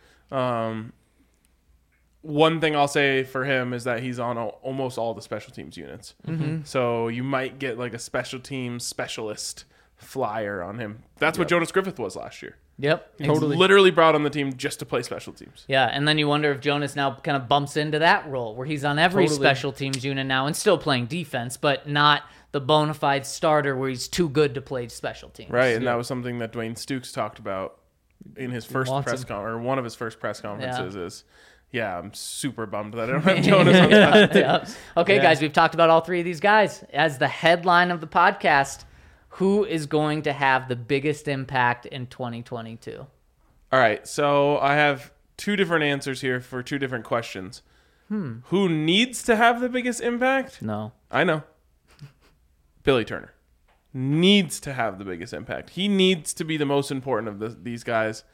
S1: One thing I'll say for him is that he's on almost all the special teams units. So you might get like a special teams specialist flyer on him. That's what Jonas Griffith was last year.
S3: Yep.
S1: He's literally brought on the team just to play special teams.
S3: Yeah, and then you wonder if Jonas now kind of bumps into that role where he's on every
S2: Totally.
S3: special teams unit now and still playing defense, but not the bona fide starter where he's too good to play special teams.
S1: Right, and that was something that Dwayne Stukes talked about in his first
S2: wants
S1: press
S2: him.
S1: conference, or one of his first press conferences is, I'm super bummed that I don't have Jonas on special teams.
S3: Yeah. Okay, guys, we've talked about all three of these guys. As the headline of the podcast, who is going to have the biggest impact in 2022?
S1: All right, so I have two different answers here for two different questions. Who needs to have the biggest impact?
S3: No.
S1: I know. Billy Turner needs to have the biggest impact. He needs to be the most important of these guys.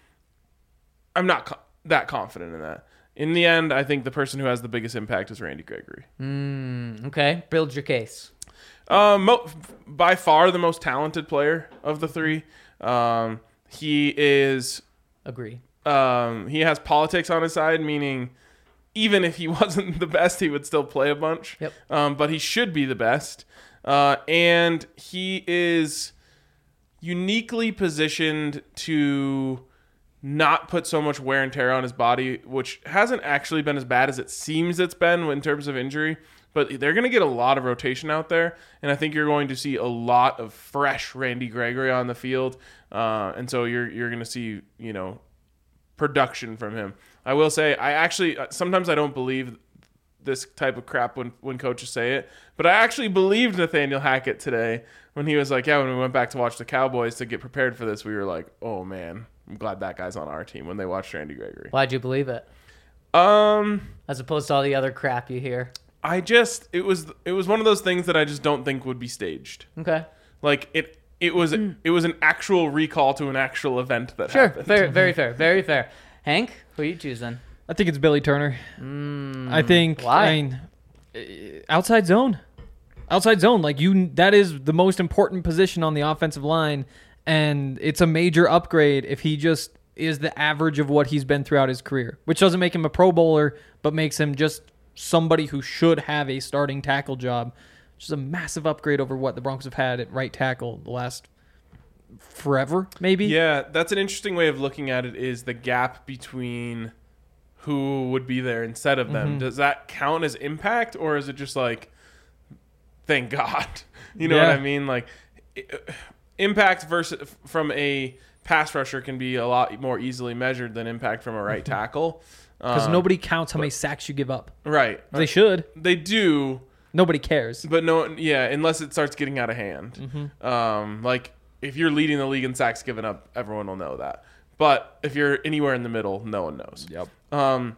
S1: I'm not that confident in that. In the end, I think the person who has the biggest impact is Randy Gregory.
S3: Okay, build your case.
S1: By far the most talented player of the three. He is...
S3: Agree.
S1: He has politics on his side, meaning even if he wasn't the best, he would still play a bunch.
S3: Yep.
S1: But he should be the best. And he is uniquely positioned to not put so much wear and tear on his body, which hasn't actually been as bad as it seems it's been in terms of injury. But they're going to get a lot of rotation out there, and I think you're going to see a lot of fresh Randy Gregory on the field. And so you're going to see, production from him. I will say, sometimes I don't believe this type of crap when coaches say it, but I actually believed Nathaniel Hackett today when he was like, when we went back to watch the Cowboys to get prepared for this, we were like, oh man, I'm glad that guy's on our team when they watched Randy Gregory.
S3: Why'd you believe it? As opposed to all the other crap you hear.
S1: It was one of those things that I just don't think would be staged.
S3: Okay.
S1: Like it was an actual recall to an actual event that
S3: Sure.
S1: happened.
S3: Very fair. Very fair. Hank, who are you choosing?
S2: I think it's Billy Turner. I think.
S3: Why?
S2: I mean, outside zone. Outside zone. That is the most important position on the offensive line, and it's a major upgrade if he just is the average of what he's been throughout his career, which doesn't make him a Pro Bowler, but makes him just somebody who should have a starting tackle job, which is a massive upgrade over what the Broncos have had at right tackle the last forever, maybe.
S1: Yeah, that's an interesting way of looking at it, is the gap between who would be there instead of them. Does that count as impact, or is it just like, thank God? You know what I mean? Like, impact versus from a pass rusher can be a lot more easily measured than impact from a right tackle.
S2: Because nobody counts how many sacks you give up.
S1: Right.
S2: They should.
S1: They do.
S2: Nobody cares.
S1: But unless it starts getting out of hand. Like, if you're leading the league in sacks given up, everyone will know that. But if you're anywhere in the middle, no one knows.
S2: Yep.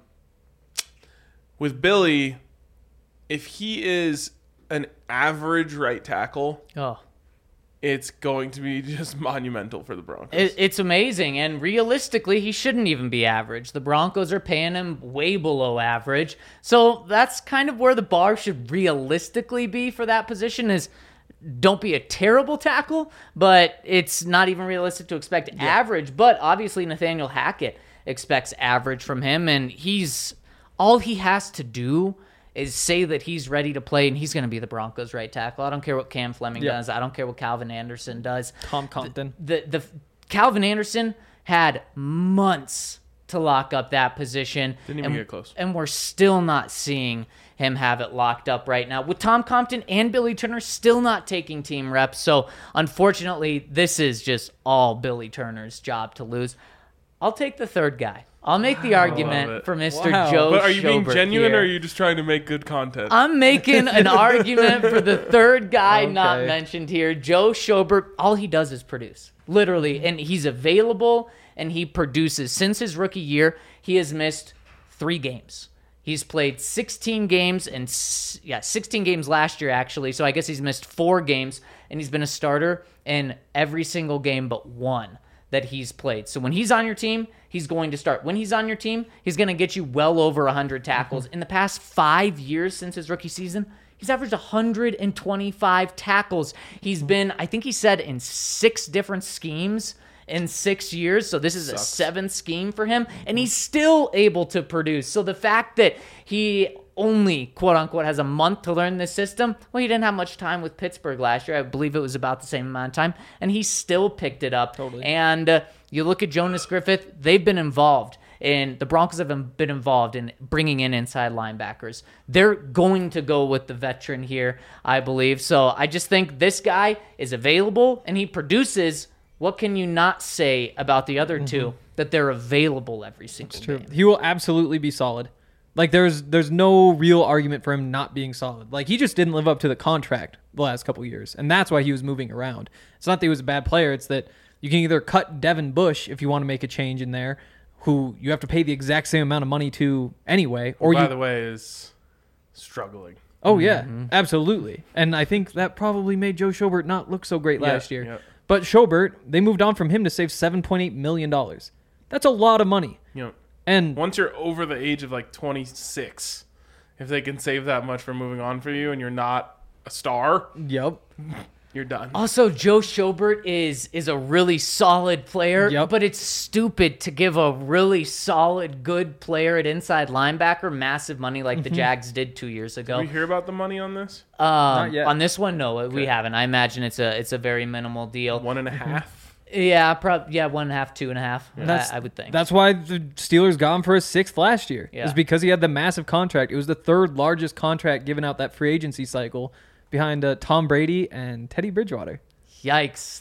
S1: With Billy, if he is an average right tackle, it's going to be just monumental for the Broncos.
S3: It's amazing, and realistically, he shouldn't even be average. The Broncos are paying him way below average, so that's kind of where the bar should realistically be for that position is don't be a terrible tackle, but it's not even realistic to expect average. But obviously, Nathaniel Hackett expects average from him, and all he has to do is say that he's ready to play, and he's going to be the Broncos' right tackle. I don't care what Cam Fleming does. I don't care what Calvin Anderson does.
S2: Tom Compton.
S3: The Calvin Anderson had months to lock up that position.
S1: Didn't even get close.
S3: And we're still not seeing him have it locked up right now. With Tom Compton and Billy Turner still not taking team reps. So, unfortunately, this is just all Billy Turner's job to lose. I'll take the third guy. I'll make the argument for Mr. Joe
S1: But are you being
S3: Schobert
S1: genuine
S3: here.
S1: or are you just trying to make good content?
S3: I'm making an argument for the third guy not mentioned here, Joe Schobert. All he does is produce, literally, and he's available and he produces. Since his rookie year, he has missed 3 games. He's played 16 games 16 games last year actually. So I guess he's missed 4 games, and he's been a starter in every single game but 1 that he's played. So when he's on your team, he's going to start. When he's on your team, he's going to get you well over 100 tackles. In the past 5 years since his rookie season, he's averaged 125 tackles. He's been, I think he said, in 6 different schemes in 6 years. So this is a 7th scheme for him, and he's still able to produce. So the fact that he only, quote unquote, has a month to learn this system. Well, he didn't have much time with Pittsburgh last year. I believe it was about the same amount of time, and he still picked it up.
S2: Totally.
S3: And you look at Jonas Griffith, they've been involved, and the Broncos have been involved in bringing in inside linebackers. They're going to go with the veteran here, I believe. So I just think this guy is available, and he produces. What can you not say about the other two? That they're available every single game.
S2: He will absolutely be solid. Like, there's no real argument for him not being solid. Like, he just didn't live up to the contract the last couple of years, and that's why he was moving around. It's not that he was a bad player. It's that you can either cut Devin Bush if you want to make a change in there, who you have to pay the exact same amount of money to anyway. Or
S1: by the way, is struggling.
S2: Oh, yeah, absolutely. And I think that probably made Joe Schobert not look so great last year.
S1: Yeah.
S2: But Schobert, they moved on from him to save $7.8 million. That's a lot of money. And
S1: once you're over the age of like 26, if they can save that much for moving on for you and you're not a star,
S2: yep,
S1: you're done.
S3: Also, Joe Schobert is a really solid player, but it's stupid to give a really solid, good player at inside linebacker massive money like the Jags did 2 years ago.
S1: Did we hear about the money on this?
S2: Not yet.
S3: On this one, no, we haven't. I imagine it's a very minimal deal.
S1: 1.5.
S3: Yeah, probably. Yeah, 1.5, 2.5. I would think.
S2: That's why the Steelers got him for a 6th last year.
S3: Yeah.
S2: It was because he had the massive contract. It was the 3rd largest contract given out that free agency cycle, behind Tom Brady and Teddy Bridgewater.
S3: Yikes!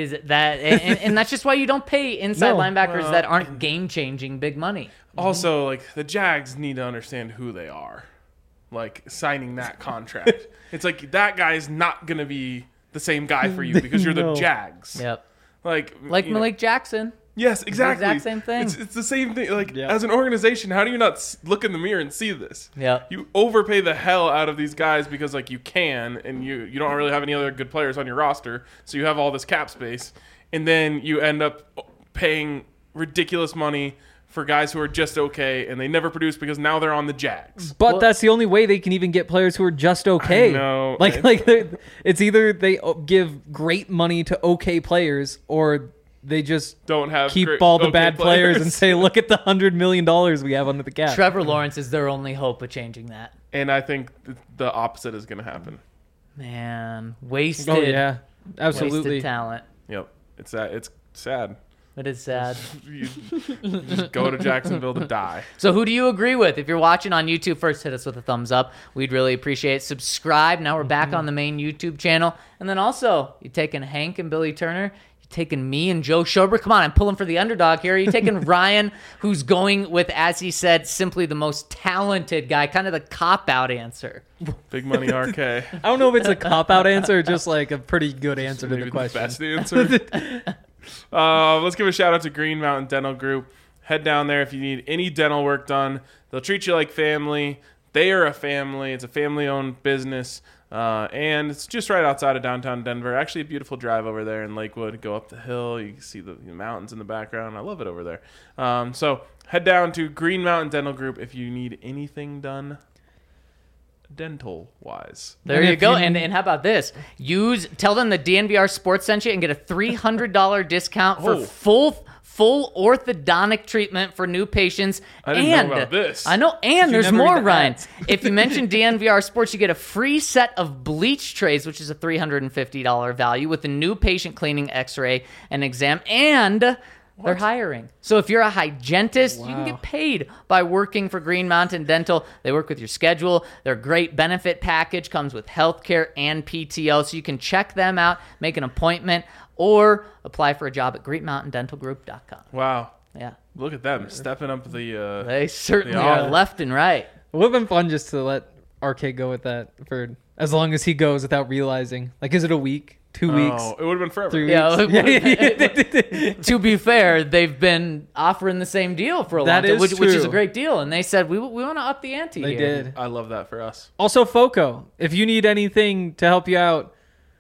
S3: And that's just why you don't pay inside linebackers that aren't game-changing big money.
S1: Also, like, the Jags need to understand who they are. Like, signing that contract. It's like, that guy's not going to be the same guy for you because you're the Jags.
S3: Yep.
S1: Like
S3: Malik Jackson.
S1: Yes, exactly.
S3: The exact same thing.
S1: It's the same thing. Like, as an organization, how do you not look in the mirror and see this?
S3: Yeah.
S1: You overpay the hell out of these guys because, like, you can, and you don't really have any other good players on your roster, so you have all this cap space, and then you end up paying ridiculous money for guys who are just okay, and they never produce because now they're on the Jags.
S2: But that's the only way they can even get players who are just okay.
S1: I know.
S2: It's either they give great money to okay players, or they just
S1: don't have
S2: keep all the bad players and say, look at the $100 million we have under the cap.
S3: Trevor Lawrence is their only hope of changing that.
S1: And I think the opposite is going to happen.
S3: Man, wasted.
S2: Oh, yeah. Absolutely.
S3: Wasted talent.
S1: Yep. It's sad.
S3: It is sad.
S1: You just go to Jacksonville to die.
S3: So who do you agree with? If you're watching on YouTube, first hit us with a thumbs up. We'd really appreciate it. Subscribe. Now we're back on the main YouTube channel. And then also, you're taking Hank and Billy Turner, you're taking me and Joe Schobert? Come on, I'm pulling for the underdog here. Are you taking Ryan, who's going with, as he said, simply the most talented guy, kind of the cop-out answer?
S1: Big money RK.
S2: I don't know if it's a cop-out answer or just like a pretty good answer to the
S1: Maybe
S2: question.
S1: best answer. Let's give a shout out to Green Mountain Dental Group. Head down there if you need any dental work done. They'll treat you like family. They are a family. It's a family-owned business. And it's just right outside of downtown Denver. Actually, a beautiful drive over there in Lakewood. Go up the hill. You can see the mountains in the background. I love it over there. So head down to Green Mountain Dental Group if you need anything done dental-wise.
S3: There
S2: And
S3: you
S2: if
S3: go.
S2: you-
S3: And how about this? Tell them the DNVR Sports sent you and get a $300 discount for full orthodontic treatment for new patients.
S1: I didn't know about this.
S3: I know, and there's
S2: never read
S3: more,
S2: the
S3: Ryan.
S2: ads.
S3: If you mention DNVR Sports, you get a free set of bleach trays, which is a $350 value, with a new patient cleaning, x-ray, and exam, and they're hiring. So if you're a hygienist, you can get paid by working for Green Mountain Dental. They work with your schedule. Their great benefit package comes with healthcare and PTO, so you can check them out, make an appointment, or apply for a job at GreatMountainDentalGroup.com.
S1: Wow.
S3: Yeah,
S1: Look at them stepping up the...
S3: they certainly
S1: They
S3: are
S1: are.
S3: left and right.
S2: It would have been fun just to let RK go with that for as long as he goes without realizing. Like, is it a week? 2 weeks?
S1: Oh, it would have been forever.
S2: 3
S3: Yeah,
S2: weeks?
S3: to be fair, they've been offering the same deal for a long
S2: That
S3: time,
S2: is
S3: which is a
S2: true.
S3: great deal. And they said, we want to up the ante
S2: They
S3: here.
S2: did.
S1: I love that for us.
S2: Also, FOCO, if you need anything to help you out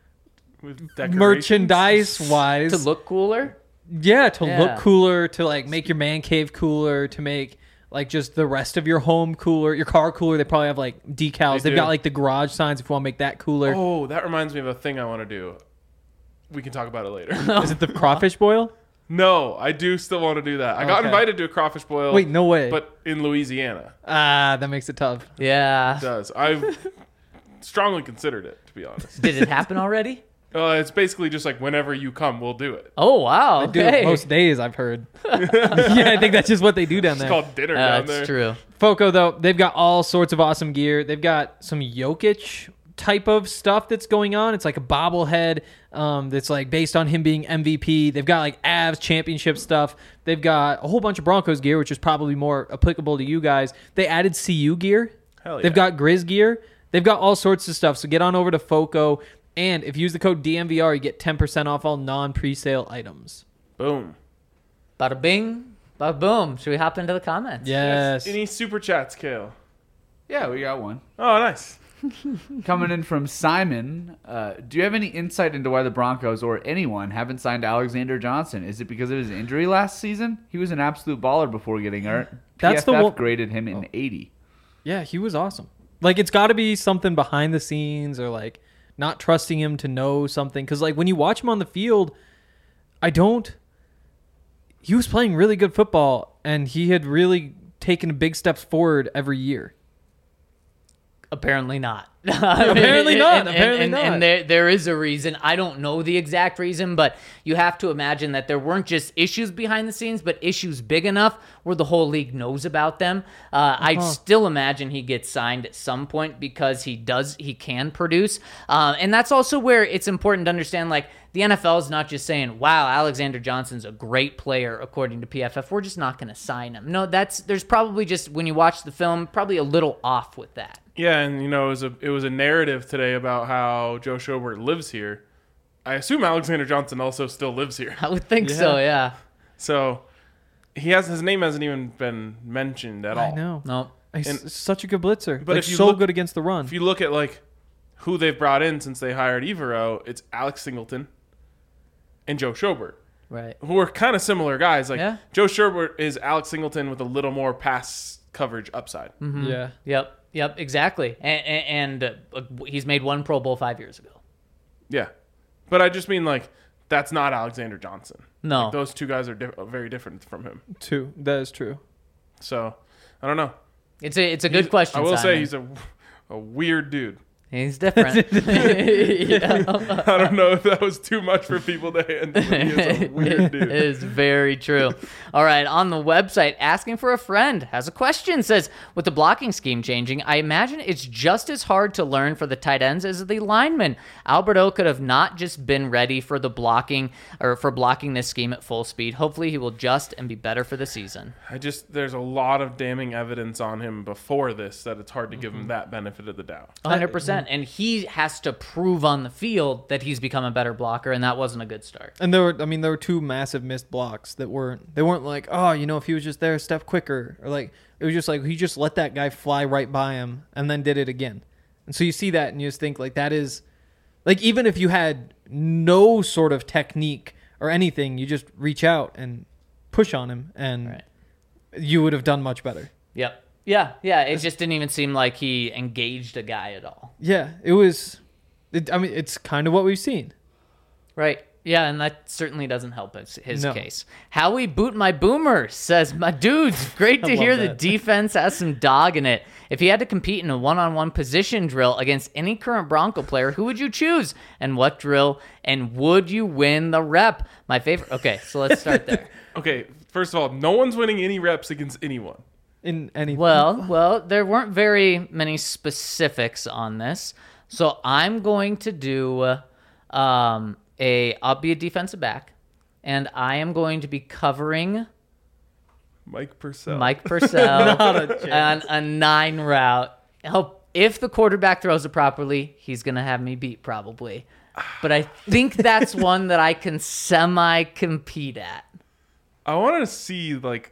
S1: With decorations.
S2: merchandise-wise.
S3: To look cooler?
S2: Yeah, to
S3: Yeah.
S2: look cooler, to like make your man cave cooler, to make like just the rest of your home cooler, your car cooler. They probably have like decals.
S1: They
S2: They've
S1: do.
S2: got like the garage signs if you want to make that cooler.
S1: Oh, that reminds me of a thing I want to do. We can talk about it later.
S2: Is it the crawfish boil?
S1: No, I do still want to do that. I got
S2: Okay.
S1: invited to a crawfish boil.
S2: Wait, no way.
S1: But in Louisiana.
S2: That makes it tough.
S3: Yeah.
S1: It does. I've strongly considered it, to be honest.
S3: Did it happen already?
S1: It's basically just like whenever you come, we'll do it.
S3: Oh, wow.
S2: They do
S3: Okay.
S2: it most days, I've heard. Yeah, I think that's just what they do down
S1: It's
S2: there.
S1: called dinner down there.
S3: That's true.
S2: FOCO, though, they've got all sorts of awesome gear. They've got some Jokic type of stuff that's going on. It's like a bobblehead that's like based on him being MVP. They've got like Avs championship stuff. They've got a whole bunch of Broncos gear, which is probably more applicable to you guys. They added CU gear.
S1: Hell yeah.
S2: They've got Grizz gear. They've got all sorts of stuff. So get on over to FOCO. And if you use the code DMVR, you get 10% off all non-presale items.
S1: Boom.
S3: Bada bing, bada boom. Should we hop into the comments?
S2: Yes.
S1: Any super chats, Kale?
S4: Yeah, we got one.
S1: Oh, nice.
S4: Coming in from Simon, do you have any insight into why the Broncos or anyone haven't signed Alexander Johnson? Is it because of his injury last season? He was an absolute baller before getting hurt.
S2: That's the
S4: PFF
S2: one-
S4: graded him in 80.
S2: Yeah, he was awesome. Like, it's got to be something behind the scenes or, like, not trusting him to know something. Because, like, when you watch him on the field, he was playing really good football, and he had really taken big steps forward every year.
S3: Apparently not.
S2: Apparently not. Apparently not.
S3: And there is a reason. I don't know the exact reason, but you have to imagine that there weren't just issues behind the scenes, but issues big enough where the whole league knows about them. I still imagine he gets signed at some point because he can produce. And that's also where it's important to understand, like, the NFL is not just saying, wow, Alexander Johnson's a great player according to PFF. We're just not going to sign him. No, there's probably just, when you watch the film, probably a little off with that.
S1: Yeah, and it was a narrative today about how Joe Schobert lives here. I assume Alexander Johnson also still lives here.
S3: I would think so, yeah.
S1: So his name hasn't even been mentioned at all.
S2: I know.
S3: No.
S2: He's
S1: And-
S2: such a good blitzer.
S1: But
S2: Like,
S1: if you
S2: so
S1: look-
S2: good against the run.
S1: If you look at like who they've brought in since they hired Evero, it's Alex Singleton and Joe Schobert,
S3: Right.
S1: who are kind of similar guys. Like
S3: Yeah.
S1: Joe Schobert is Alex Singleton with a little more pass coverage upside.
S2: Yeah.
S3: Yep, exactly. And he's made one Pro Bowl 5 years ago.
S1: Yeah, but I just mean like that's not Alexander Johnson.
S3: No.
S1: Like, those two guys are very different from him.
S2: Two. That is true.
S1: So I don't know.
S3: It's a good question,
S1: I will say
S3: Simon.
S1: he's a weird dude.
S3: He's different. Yeah.
S1: I don't know if that was too much for people to handle. He is a weird dude.
S3: It is very true. All right, on the website, Asking for a Friend has a question. Says, with the blocking scheme changing, I imagine it's just as hard to learn for the tight ends as the linemen. Alberto could have not just been ready for the blocking or for blocking this scheme at full speed. Hopefully he will adjust and be better for the season.
S1: There's a lot of damning evidence on him before this that it's hard to give him that benefit of the doubt.
S3: 100%. And he has to prove on the field that he's become a better blocker, and that wasn't a good start.
S2: And there were two massive missed blocks that weren't like, oh, if he was just there a step quicker, or like it was just like he just let that guy fly right by him and then did it again. And so you see that and you just think like that is like, even if you had no sort of technique or anything, you just reach out and push on him and you would have done much better.
S3: Yep. Yeah. It just didn't even seem like he engaged a guy at all.
S2: Yeah, it was. It's kind of what we've seen.
S3: Right. Yeah, and that certainly doesn't help his
S2: No.
S3: case. Howie Boot My Boomer says, my dudes, great to
S2: I
S3: hear
S2: love
S3: the
S2: that.
S3: defense has some dog in it. If you had to compete in a one-on-one position drill against any current Bronco player, who would you choose? And what drill? And would you win the rep? My favorite. Okay, so let's start there.
S1: Okay, first of all, no one's winning any reps against anyone.
S2: In any
S3: Well, there weren't very many specifics on this. So I'm going to do I'll be a defensive back, and I am going to be covering
S1: Mike Purcell.
S3: Mike Purcell
S2: Not a chance.
S3: on a 9 route. If the quarterback throws it properly, he's going to have me beat probably. But I think that's one that I can semi-compete at.
S1: I want to see, like,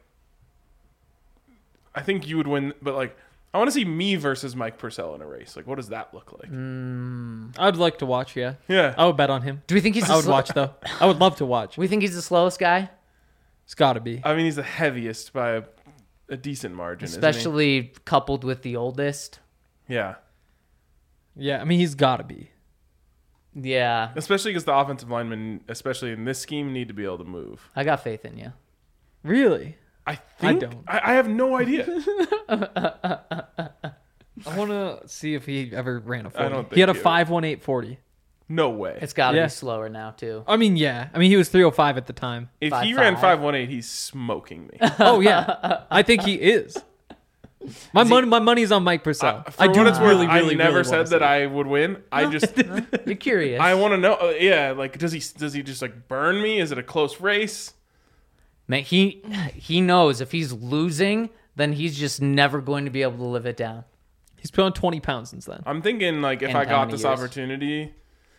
S1: I think you would win, but, like, I want to see me versus Mike Purcell in a race. Like, what does that look like?
S2: I'd like to watch. Yeah,
S1: Yeah.
S2: I would bet on him.
S3: Do we think he's
S2: I would watch though. I would love to watch.
S3: We think he's the slowest guy?
S2: It's got to be.
S1: I mean, he's the heaviest by a decent margin,
S3: Especially coupled with the oldest.
S1: isn't he? Yeah.
S2: Yeah, he's got to be.
S3: Yeah,
S1: Especially because the offensive linemen, especially in this scheme, need to be able to move.
S3: I got faith in you.
S2: Really?
S1: I think
S2: don't.
S1: I have no idea.
S2: I want to see if he ever ran a 40.
S1: I don't
S2: He had a
S1: think he
S2: 5.18 40.
S1: No way.
S3: It's got to
S2: Yeah.
S3: be slower now, too.
S2: Yeah. He was 305 at the time.
S1: If
S3: 5'5".
S1: he ran 5.18, he's smoking me.
S2: Oh yeah, I think he is. My money's on Mike Purcell.
S1: For
S2: I do
S1: what it's worth,
S2: really,
S1: I
S2: really,
S1: never
S2: really
S1: said
S2: wanna
S1: that
S2: see it.
S1: I would win. I just
S3: You're curious.
S1: I want to know. Yeah, like does he just like burn me? Is it a close race?
S3: Man, he knows if he's losing, then he's just never going to be able to live it down.
S2: He's put on 20 pounds since then.
S1: I'm thinking like if
S3: In
S1: I
S3: how
S1: got
S3: many
S1: this
S3: years?
S1: opportunity,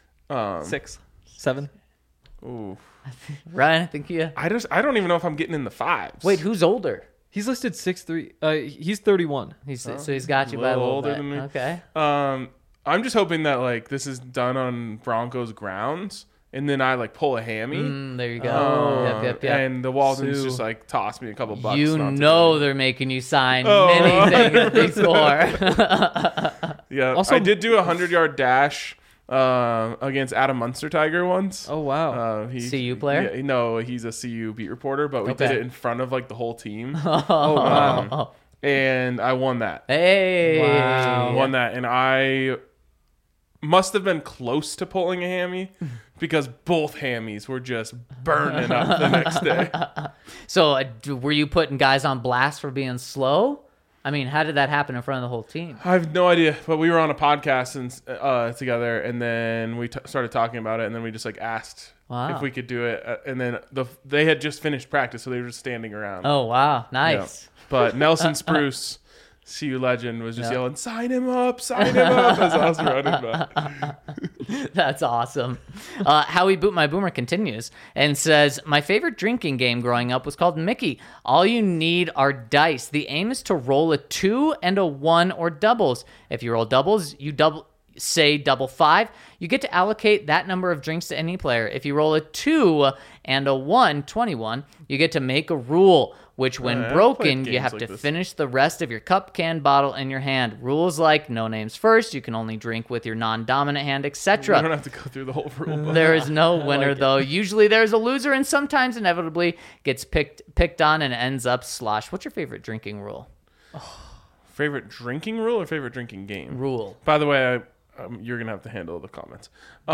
S2: 6, 7.
S1: ooh,
S3: Ryan, I think you.
S1: I don't even know if I'm getting in the fives.
S3: Wait, who's older?
S2: He's listed 6'3". He's 31.
S3: So he's got you by a
S1: little
S3: little
S1: older
S3: bit.
S1: than me.
S3: Okay.
S1: I'm just hoping that like this is done on Broncos grounds, and then I like pull a hammy.
S3: There you go. Yep.
S1: And the Waldens
S2: Sue.
S1: just like toss me a couple bucks.
S3: You
S1: not to
S3: know
S1: do
S3: they're making you sign
S1: Oh.
S3: many things before.
S1: it. Yeah.
S2: Also-
S1: I did do a 100-yard dash against Adam Munster Tiger once.
S2: Oh wow.
S3: CU player?
S1: Yeah, no, he's a CU beat reporter, but we did
S3: Okay.
S1: it in front of like the whole team,
S2: Oh wow.
S1: and I won that.
S3: Hey.
S2: Wow.
S1: Won that, and I must have been close to pulling a hammy because both hammies were just burning up the next day.
S3: So were you putting guys on blast for being slow? I mean, how did that happen in front of the whole team?
S1: I have no idea, but we were on a podcast and together, and then we started talking about it, and then we just like asked
S3: Wow.
S1: if we could do it, and then they had just finished practice, so they were just standing around.
S3: Oh, wow.
S1: Yeah.
S3: Nice.
S1: But Nelson Spruce, CU legend, was just
S3: Yeah.
S1: yelling, "Sign him up! Sign him up!" as I was running by.
S3: That's awesome. Howie Boot My Boomer continues and says, my favorite drinking game growing up was called Mickey. All you need are dice. The aim is to roll a 2 and a 1 or doubles. If you roll doubles, you say double 5. You get to allocate that number of drinks to any player. If you roll a 2 and a 1, 21, you get to make a rule, which when
S1: I've
S3: broken,
S1: played
S3: you
S1: games
S3: have
S1: like
S3: to
S1: this.
S3: finish the rest of your cup, can, bottle in your hand. Rules like no names first, you can only drink with your non-dominant hand,
S1: You
S3: etc.
S1: don't have to go through the whole rule book.
S3: There is no winner, though. Usually there's a loser, and sometimes inevitably gets picked on and ends up sloshed. What's your favorite drinking rule?
S1: Favorite drinking rule or favorite drinking game?
S3: Rule.
S1: By the way, You're gonna have to handle the comments.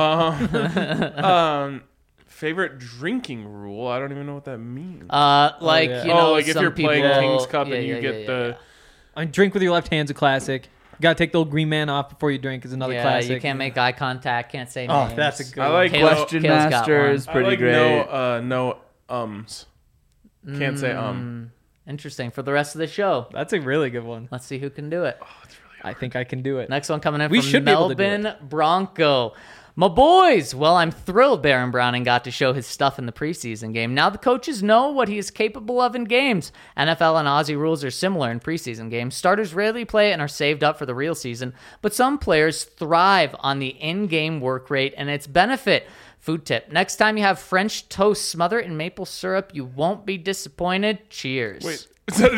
S1: Favorite drinking rule? I don't even know what that means.
S3: Like
S2: yeah.
S3: you know,
S1: like if
S3: some
S1: you're playing
S3: people-
S1: King's Cup
S3: yeah,
S1: and you
S3: yeah,
S1: get
S3: yeah,
S1: the.
S2: I mean, drink with your left hand's a classic. You gotta take the old green man off before you drink is another
S3: yeah,
S2: classic.
S3: you can't make eye contact, can't say
S2: Oh,
S3: names.
S2: that's a good
S1: I like
S3: Kale-
S4: Question
S3: Kale's got
S4: Master
S3: one.
S4: is
S1: I
S4: pretty
S1: like
S4: great.
S1: no ums. Can't say
S3: Interesting for the rest of the show.
S2: That's a really good one.
S3: Let's see who can do it.
S2: I think I can do it.
S3: Next one coming in
S2: We
S3: from
S2: should be able to do
S3: Melbourne Bronco. My boys! Well, I'm thrilled Baron Browning got to show his stuff in the preseason game. Now the coaches know what he is capable of in games. NFL and Aussie rules are similar in preseason games. Starters rarely play and are saved up for the real season, but some players thrive on the in-game work rate and its benefit. Food tip. Next time you have French toast, smother it in maple syrup. You won't be disappointed. Cheers.
S1: Wait, is that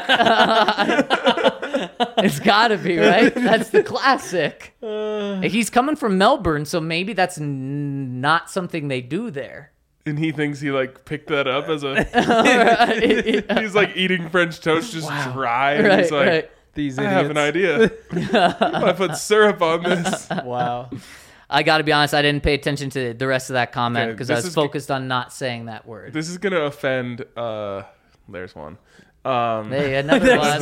S1: a joke?
S3: It's gotta be, right? That's the classic. He's coming from Melbourne, so maybe that's not something they do there.
S1: And he thinks he like picked that up as a. He's like eating French toast just dry. And
S3: Right,
S1: he's like,
S3: right.
S2: These
S1: I
S2: idiots.
S1: have an idea. I put syrup on this.
S2: Wow.
S3: I gotta be honest, I didn't pay attention to the rest of that comment
S1: Okay,
S3: because I
S1: this
S3: was
S1: is-
S3: focused on not saying that word.
S1: This is gonna offend. There's one.
S3: Hey, another one.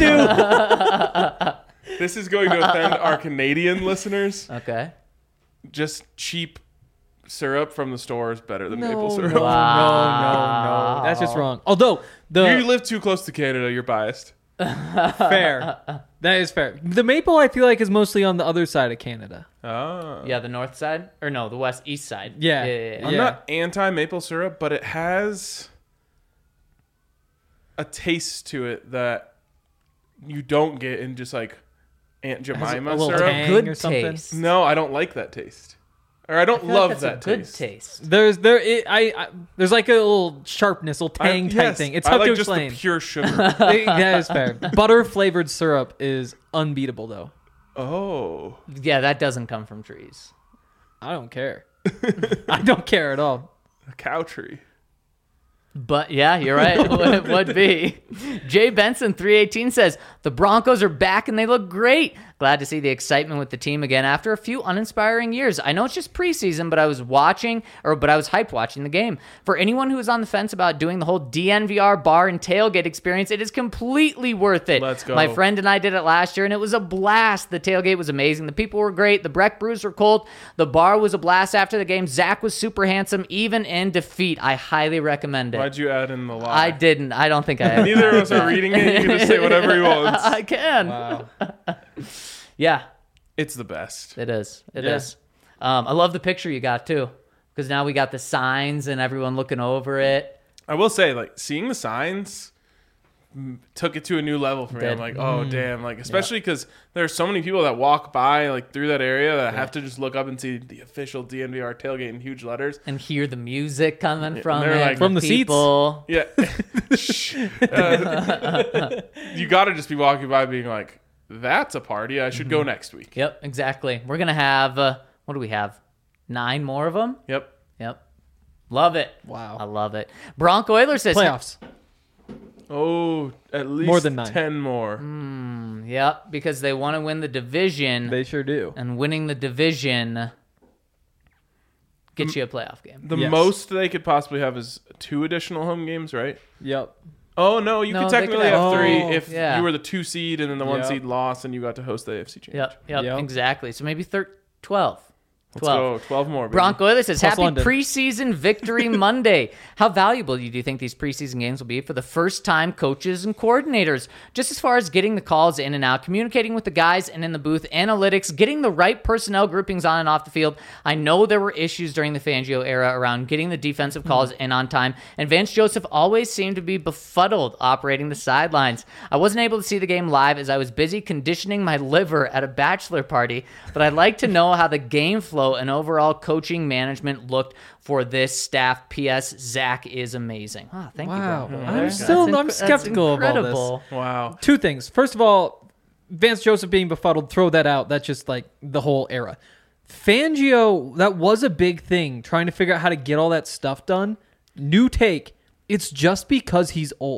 S1: This is going to offend our Canadian listeners.
S3: Okay.
S1: Just cheap syrup from the store is better than maple
S2: No,
S1: syrup.
S2: no, no. That's just wrong. Although
S1: You live too close to Canada. You're biased.
S2: fair, that is fair. The maple I feel like is mostly on the other side of Canada.
S1: Ah.
S3: Yeah, the north side or no, the east side.
S2: Yeah.
S3: yeah.
S1: I'm not anti maple syrup, but it has a taste to it that you don't get in just like Aunt Jemima
S2: little
S1: syrup.
S2: tang
S3: Good
S2: or something.
S3: taste.
S1: No, I don't like that taste. Or I don't
S3: I feel like
S1: love
S3: that's
S1: that
S3: a good
S1: taste.
S3: taste.
S2: There's like a little sharpness, little tang type
S1: Yes,
S2: thing. It's
S1: I
S2: tough
S1: like
S2: to
S1: just
S2: explain.
S1: the pure sugar.
S2: That is fair. Butter flavored syrup is unbeatable though.
S1: Oh.
S3: Yeah, that doesn't come from trees.
S2: I don't care. I don't care at all.
S1: A cow tree.
S3: But yeah, you're right. It would be. Jay Benson 318 says the Broncos are back and they look great. Glad to see the excitement with the team again after a few uninspiring years. I know it's just preseason, but I was hyped watching the game. For anyone who is on the fence about doing the whole DNVR bar and tailgate experience, it is completely worth it.
S1: Let's go.
S3: My friend and I did it last year, and it was a blast. The tailgate was amazing. The people were great. The Breck brews were cold. The bar was a blast after the game. Zach was super handsome, even in defeat. I highly recommend it.
S1: Why'd you add in the lie?
S3: I didn't. I don't think I have.
S1: Neither of us are reading it. You can just say whatever he wants.
S3: I can.
S2: Wow.
S3: Yeah,
S1: It's the best.
S3: it is. It
S2: Yeah.
S3: is. I love the picture you got too, because now we got the signs and everyone looking over it.
S1: I will say, like, seeing the signs took it to a new level for me.
S3: Did.
S1: I'm like, oh, damn. Like, especially because there are so many people that walk by, like, through that area that have to just look up and see the official DNVR tailgate in huge letters.
S3: And hear the music coming from
S1: they're
S3: it,
S1: like-
S2: From the seats.
S3: people.
S1: Yeah. Shh. You got to just be walking by being like, that's a party. I should go next week.
S3: Yep, exactly. We're gonna have what do we have? 9 more of them.
S1: Yep.
S3: Yep, love it.
S2: Wow.
S3: I love it. Bronco Oilers says
S2: Playoffs.
S1: Oh, at least
S2: More than 9.
S1: 10 more.
S3: Yep, because they want to win the division,
S2: They sure do.
S3: and winning the division gets you a playoff game.
S1: The
S2: Yes.
S1: most they could possibly have is 2 additional home games, right?
S2: Yep.
S1: Oh, no, you
S3: No,
S1: could
S3: they
S1: technically
S3: could
S1: have
S2: have-
S1: 3
S2: Oh,
S1: if
S3: yeah.
S1: you were the 2 seed and then the 1
S2: Yep.
S1: seed lost and you got to host the AFC Championship.
S3: Yep,
S2: Yep.
S3: exactly. So maybe 12.
S1: Let's go. 12 more. Baby.
S3: Bronco Oilers says,
S2: Plus
S3: happy
S2: London.
S3: preseason victory Monday. How valuable do you think these preseason games will be for the first-time coaches and coordinators? Just as far as getting the calls in and out, communicating with the guys and in the booth, analytics, getting the right personnel groupings on and off the field. I know there were issues during the Fangio era around getting the defensive calls in on time, and Vance Joseph always seemed to be befuddled operating the sidelines. I wasn't able to see the game live as I was busy conditioning my liver at a bachelor party, but I'd like to know how the game flow and overall coaching management looked for this staff. P.S. Zach is amazing. Oh, thank
S2: Wow.
S3: you, bro.
S2: I'm
S3: That's
S2: I'm skeptical of all
S3: incredible.
S2: this.
S1: Wow.
S2: 2 things. First of all, Vance Joseph being befuddled, throw that out. That's just like the whole era. Fangio, that was a big thing, trying to figure out how to get all that stuff done. New take. It's just because he's old.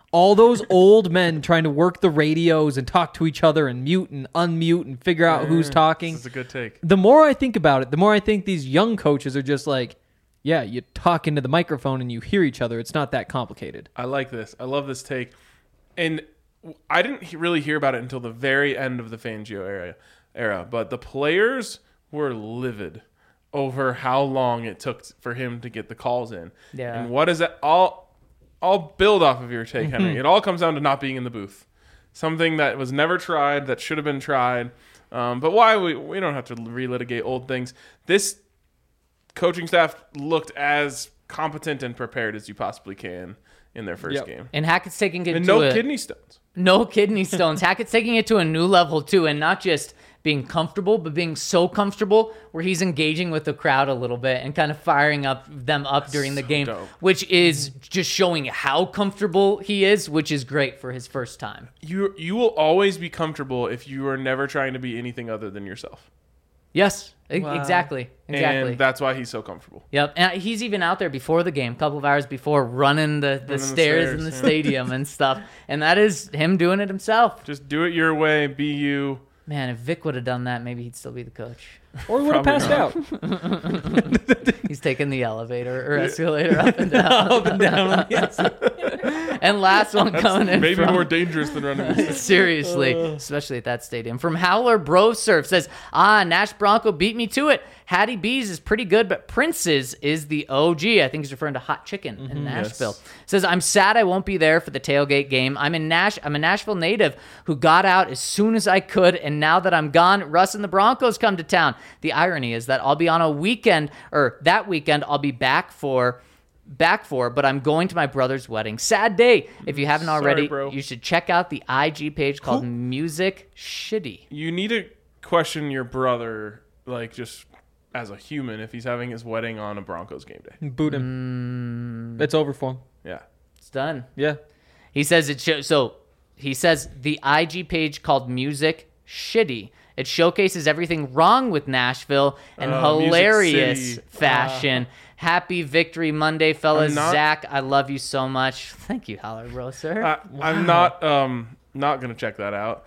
S2: All those old men trying to work the radios and talk to each other and mute and unmute and figure out who's talking.
S1: This is a good take.
S2: The more I think about it, the more I think these young coaches are just like, yeah, you talk into the microphone and you hear each other. It's not that complicated.
S1: I like this. I love this take. And I didn't really hear about it until the very end of the Fangio era, but the players were livid over how long it took for him to get the calls in.
S3: Yeah.
S1: And what is that? I'll build off of your take, Henry. It all comes down to not being in the booth. Something that was never tried, that should have been tried. But why? We don't have to relitigate old things. This coaching staff looked as competent and prepared as you possibly can in their first game.
S3: And Hackett's taking it
S1: And
S3: to
S1: no kidney stones.
S3: No kidney stones. Hackett's taking it to a new level, too, and not just being comfortable, but being so comfortable where he's engaging with the crowd a little bit and kind of firing them up during the game,
S1: dope.
S3: which is just showing how comfortable he is, which is great for his first time.
S1: You will always be comfortable if you are never trying to be anything other than yourself.
S3: Yes, exactly.
S1: And that's why he's so comfortable.
S3: Yep, and he's even out there before the game, a couple of hours before, running the stairs in the stadium and stuff. And that is him doing it himself.
S1: Just do it your way. Be you.
S3: Man, if Vic would have done that, maybe he'd still be the coach.
S2: Or would have passed out.
S3: He's taking the elevator or escalator up and down. Up and down. And last one coming in
S1: Maybe
S3: from,
S1: more dangerous than running the stairs.
S3: seriously, especially at that stadium. From Howler Bro Surf says, Nash Bronco beat me to it. Hattie B's is pretty good, but Prince's is the OG. I think he's referring to Hot Chicken in Nashville.
S1: Yes.
S3: Says, I'm sad I won't be there for the tailgate game. I'm a Nashville native who got out as soon as I could, and now that I'm gone, Russ and the Broncos come to town. The irony is that I'll be on a weekend, or that weekend I'll be back for, but I'm going to my brother's wedding. Sad day. If you haven't already,
S1: bro.
S3: you should check out the IG page called Music Shitty.
S1: You need to question your brother, like, just as a human, if he's having his wedding on a Broncos game day.
S2: Boot him. It's over for him.
S1: Yeah.
S3: It's done.
S2: Yeah.
S3: He says he says the IG page called Music Shitty. It showcases everything wrong with Nashville in hilarious
S1: Music City.
S3: fashion. Happy Victory Monday, fellas.
S1: I'm not-
S3: Zach, I love you so much. Thank you, Howler Bro, sir.
S1: I'm not gonna check that out.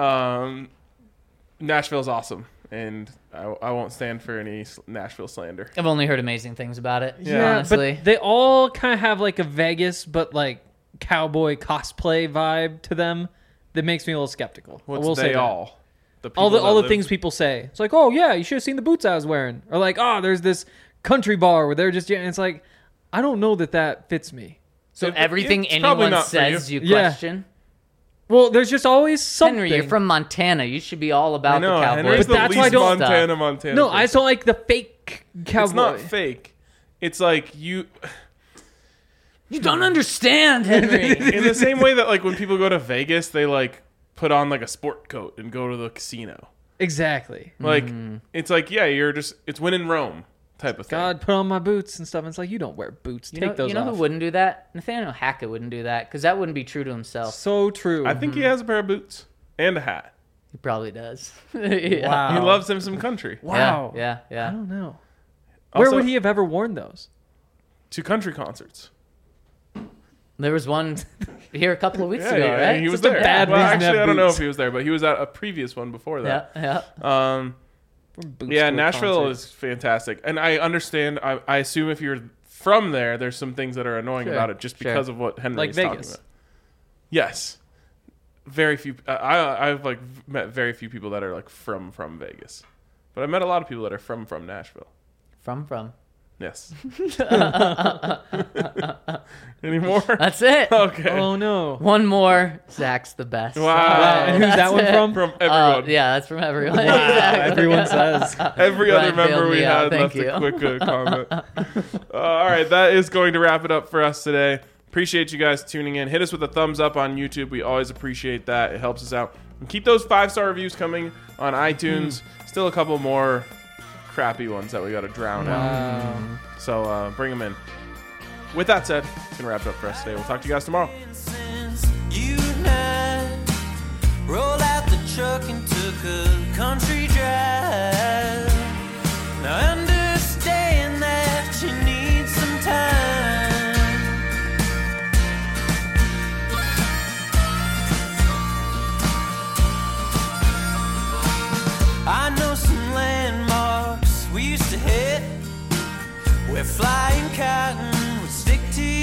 S1: Nashville's awesome, and I won't stand for any Nashville slander.
S3: I've only heard amazing things about it.
S2: Yeah,
S3: honestly.
S2: but they all kind of have like a Vegas, but like cowboy cosplay vibe to them that makes me a little skeptical. I will
S1: What's
S2: say
S1: they
S2: that.
S1: all? The
S2: All
S1: people that
S2: the
S1: live-
S2: things people say. It's like, oh yeah, you should have seen the boots I was wearing, or like, oh, there's this country bar where they're just. And it's like, I don't know that fits me.
S3: so everything
S1: it's probably
S3: anyone
S1: not for
S3: says you
S2: Yeah.
S3: question?
S2: Well, there's just always something.
S3: Henry, you're from Montana. You should be all
S1: I
S3: about
S1: know,
S3: the Cowboys.
S1: Henry's
S2: But
S1: the
S2: that's why I
S1: least
S2: don't-
S1: Montana
S2: No,
S1: person.
S2: I just don't like the fake cowboy.
S1: It's not fake. It's like you.
S3: You don't understand, Henry.
S1: In the same way that, like, when people go to Vegas, they like put on like a sport coat and go to the casino.
S2: Exactly.
S1: Like it's like, yeah, it's win in Rome type of thing.
S2: God, put on my boots and stuff. And it's like, you don't wear boots. Take those
S3: you know
S2: off.
S3: who wouldn't do that? Nathaniel Hackett wouldn't do that because that wouldn't be true to himself.
S2: So true.
S1: I think he has a pair of boots and a hat.
S3: He probably does. Yeah.
S2: Wow.
S1: He loves him some country.
S2: Wow.
S3: Yeah.
S2: I don't know.
S1: Also,
S2: Where would he have ever worn those?
S1: to country concerts?
S3: There was one here a couple of weeks
S1: Yeah,
S3: ago,
S1: yeah,
S3: right?
S1: he was
S2: Just a
S1: there.
S2: bad
S1: well,
S2: reason to
S1: actually,
S2: have
S1: I don't know
S2: boots.
S1: if he was there, but he was at a previous one before that.
S3: Yeah.
S2: Boots
S1: Yeah,
S2: to a
S1: Nashville
S2: concert.
S1: is fantastic, and I understand. I assume if you're from there, there's some things that are annoying
S3: Sure,
S1: about it just
S3: sure.
S1: because of what Henry
S2: Like
S1: is talking
S2: Vegas.
S1: about. Yes, very few. I've like met very few people that are like from Vegas, but I met a lot of people that are from Nashville.
S3: From.
S1: Yes. Any more?
S3: That's it.
S1: Okay.
S2: Oh no.
S3: One more. Zach's the best.
S1: Wow.
S2: And who's that one from?
S1: From everyone.
S3: Yeah, that's from everyone.
S2: Wow,
S3: Exactly.
S2: everyone says.
S1: Every other
S3: Ryan
S1: member
S3: bailed
S1: we
S3: me out.
S1: had
S3: Thank
S1: left a
S3: you.
S1: quick comment. All right, that is going to wrap it up for us today. Appreciate you guys tuning in. Hit us with a thumbs up on YouTube. We always appreciate that. It helps us out. And keep those 5-star reviews coming on iTunes. Still a couple more crappy ones that we got to drown out. So bring them in. With that said, it's going to wrap it up for us today. We'll talk to you guys tomorrow.
S5: Since you and I rolled out the truck and took a country drive. Now I understand that you need some time. head where flying cotton would stick to